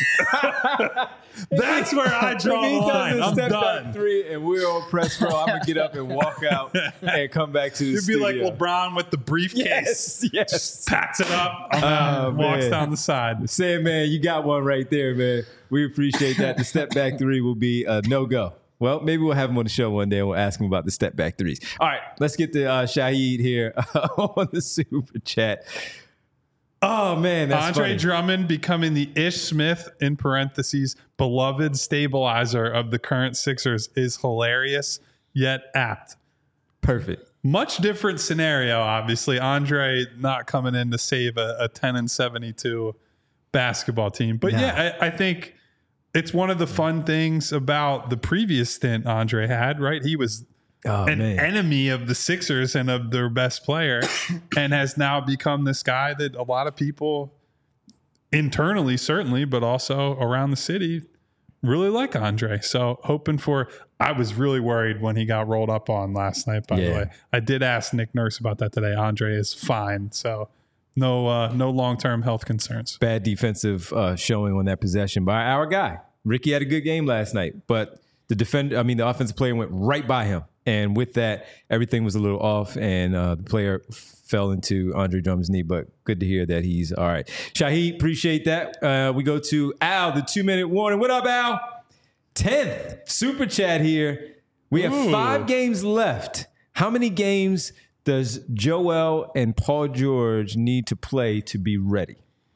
S2: That's where I draw the line. I'm
S1: step
S2: done.
S1: Back three, and we're on press row. I'm gonna get up and walk out and come back to the
S2: You'd
S1: studio.
S2: be like LeBron with the briefcase.
S1: Yes, yes.
S2: Just packs it up, and uh, walks down the side.
S1: Sandman, you got one right there, man. We appreciate that. The step back three will be a no go. Well, maybe we'll have him on the show one day and we'll ask him about the step back threes. All right, let's get to uh, Shahid here on the super chat. Oh, man, that's
S2: Andre
S1: funny.
S2: Drummond becoming the Ish Smith, in parentheses, beloved stabilizer of the current Sixers is hilarious, yet apt.
S1: Perfect.
S2: much different scenario. Obviously, Andre not coming in to save a, a ten and seventy-two basketball team. But
S3: Yeah.
S2: yeah, I, I think it's one of the fun things about the previous stint Andre had, right? He was
S1: Oh,
S2: an
S1: man.
S2: enemy of the Sixers and of their best player and has now become this guy that a lot of people internally, certainly, but also around the city really like Andre. So hoping for, I was really worried when he got rolled up on last night, by
S1: Yeah.
S2: the way. I did ask Nick Nurse about that today. Andre is fine. So no, uh, no long-term health concerns.
S1: Bad defensive uh, showing on that possession by our guy. Ricky had a good game last night, but the defender, I mean, the offensive player went right by him. And with that, everything was a little off, and uh, the player fell into Andre Drummond's knee. But good to hear that he's all right. Shaheed, appreciate that. Uh, we go to Al, the two-minute warning. What up, Al? tenth super chat here. We have
S2: Ooh.
S1: five games left. How many games does Joel and Paul George need to play to be ready?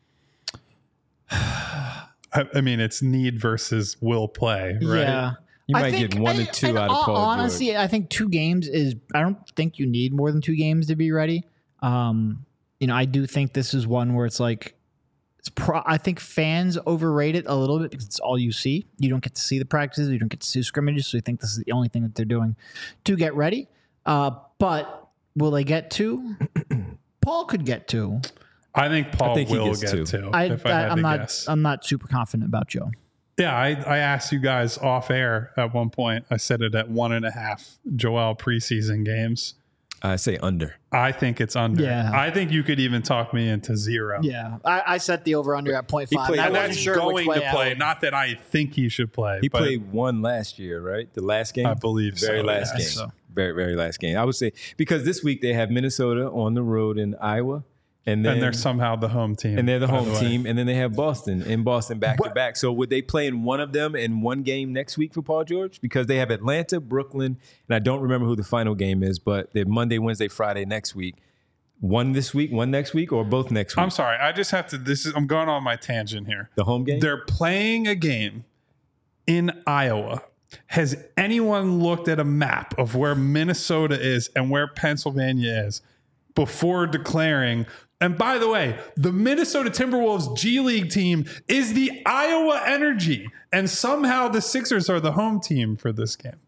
S2: I, I mean, it's need versus will play, right?
S3: Yeah.
S1: You
S3: I
S1: might
S3: think-
S1: get one or
S3: and-
S1: two
S3: and
S1: out of Paul
S3: honestly,
S1: George.
S3: I think two games is. I don't think you need more than two games to be ready. Um, you know, I do think this is one where it's like, it's. Pro, I think fans overrate it a little bit because it's all you see. You don't get to see the practices. You don't get to see scrimmages. So you think this is the only thing that they're doing to get ready. Uh, but will they get two? Paul could get two.
S2: I think Paul
S1: I think he
S2: will
S1: gets
S2: get
S1: two.
S2: two.
S3: I,
S2: if I,
S3: I,
S2: had
S3: I'm
S2: to
S3: not.
S2: guess.
S3: I'm not super confident about Joe.
S2: Yeah, I, I asked you guys off air at one point. I said it at one and a half Joel preseason games.
S1: I say under.
S2: I think it's under.
S3: Yeah.
S2: I think you could even talk me into zero.
S3: Yeah, I, I set the over under at point five.
S1: played-
S3: I
S2: And
S3: wasn't
S2: that's
S3: sure
S2: going
S3: which way
S2: to
S3: I
S2: play.
S3: would-
S2: Not that I think he should play.
S1: He
S2: but
S1: played one last year, right? The last game?
S2: I believe
S1: Very
S2: so,
S1: last
S2: yes.
S1: game.
S3: So.
S1: Very, very last game. I would say, because this week they have Minnesota on the road in Iowa. And then
S2: and they're somehow the home team.
S1: and they're the
S2: by
S1: home
S2: way.
S1: team. And then they have Boston in Boston back to
S2: What-
S1: back. So would they play in one of them in one game next week for Paul George? Because they have Atlanta, Brooklyn, and I don't remember who the final game is, but they're Monday, Wednesday, Friday next week. One this week, one next week, or both next week?
S2: I'm sorry. I just have to. This is. I'm going on my tangent here.
S1: the home game?
S2: They're playing a game in Iowa. Has anyone looked at a map of where Minnesota is and where Pennsylvania is before declaring? And by the way, the Minnesota Timberwolves G League team is the Iowa Energy, and somehow the Sixers are the home team for this game.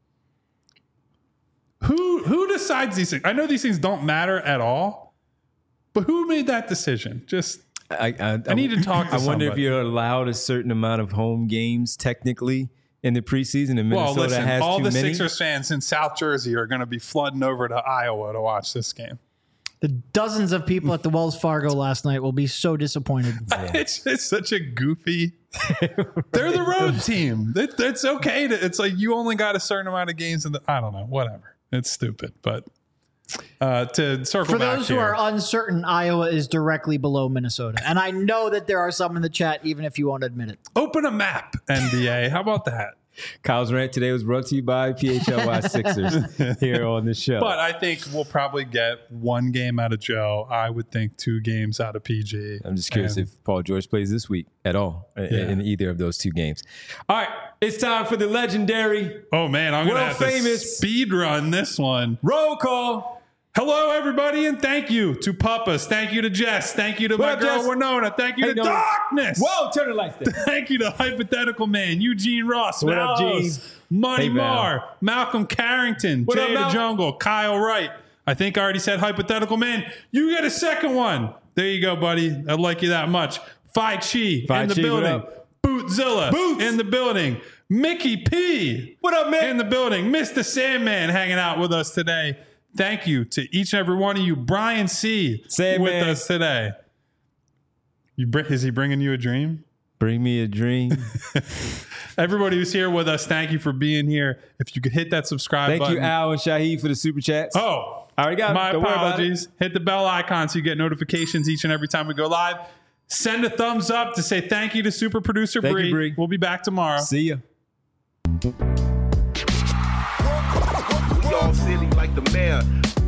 S2: Who who decides these things? I know these things don't matter at all, but who made that decision? Just
S1: I, I,
S2: I need to talk to
S1: I wonder if
S2: somebody.
S1: you're allowed a certain amount of home games technically in the preseason, and Minnesota
S2: well, listen,
S1: has
S2: all
S1: too
S2: the
S1: many.
S2: Sixers fans in South Jersey are going to be flooding over to Iowa to watch this game.
S3: The dozens of people at the Wells Fargo last night will be so disappointed.
S2: It's it's such a goofy. They're the road team. It, it's okay to. It's like you only got a certain amount of games in the. I don't know. Whatever. It's stupid, but uh, to circle
S3: For
S2: back
S3: those who
S2: here,
S3: are uncertain, Iowa is directly below Minnesota. And I know that there are some in the chat, even if you won't admit it.
S2: open a map, N B A. How about that?
S1: Kyle's rant today was brought to you by P H L Y Sixers here on the show.
S2: But I think we'll probably get one game out of Joe. I would think two games out of P G.
S1: I'm just curious
S2: And-
S1: if Paul George plays this week at all in,
S2: Yeah.
S1: in either of those two games. All right, it's time for the legendary
S2: Oh man, I'm gonna
S1: World
S2: have
S1: famous-
S2: to speed run this one.
S1: roll call.
S2: Hello, everybody, and thank you to Puppas. Thank you to Jess. Thank you to
S1: What
S2: my
S1: up,
S2: girl
S1: Jess?
S2: Winona. Thank you
S1: Hey,
S2: to
S1: Nona.
S2: Darkness.
S1: Whoa, turn the lights down.
S2: Thank you to Hypothetical Man, Eugene Ross,
S1: What up,
S2: Val
S1: Gene?
S2: House, Money
S1: Hey, Val.
S2: Marr, Malcolm Carrington,
S1: What
S2: Jay
S1: up,
S2: the
S1: Mal?
S2: Jungle, Kyle Wright. I think I already said Hypothetical Man. You get a second one. There you go, buddy. I like you that much. Phi Chi
S1: Phi
S2: in the
S1: Chi, what
S2: building.
S1: up?
S2: Bootzilla
S1: Boots.
S2: in the building. Mickey P.
S1: What up, man?
S2: in the building. Mister Sandman hanging out with us today. Thank you to each and every one of you. Brian C.
S1: Sandman.
S2: with us today. You, br- is he bringing you a dream?
S1: Bring me a dream.
S2: Everybody who's here with us, thank you for being here. If you could hit that subscribe
S1: Thank
S2: button.
S1: you, Al and Shaheed, for the super chats.
S2: Oh,
S1: I already got it.
S2: my
S1: Don't worry about it.
S2: apologies. Hit the bell icon so you get notifications each and every time we go live. Send a thumbs up to say thank you to super producer
S1: Thank you,
S2: Bree.
S1: Bree.
S2: We'll be back tomorrow.
S1: See ya.
S4: We all silly like the mayor.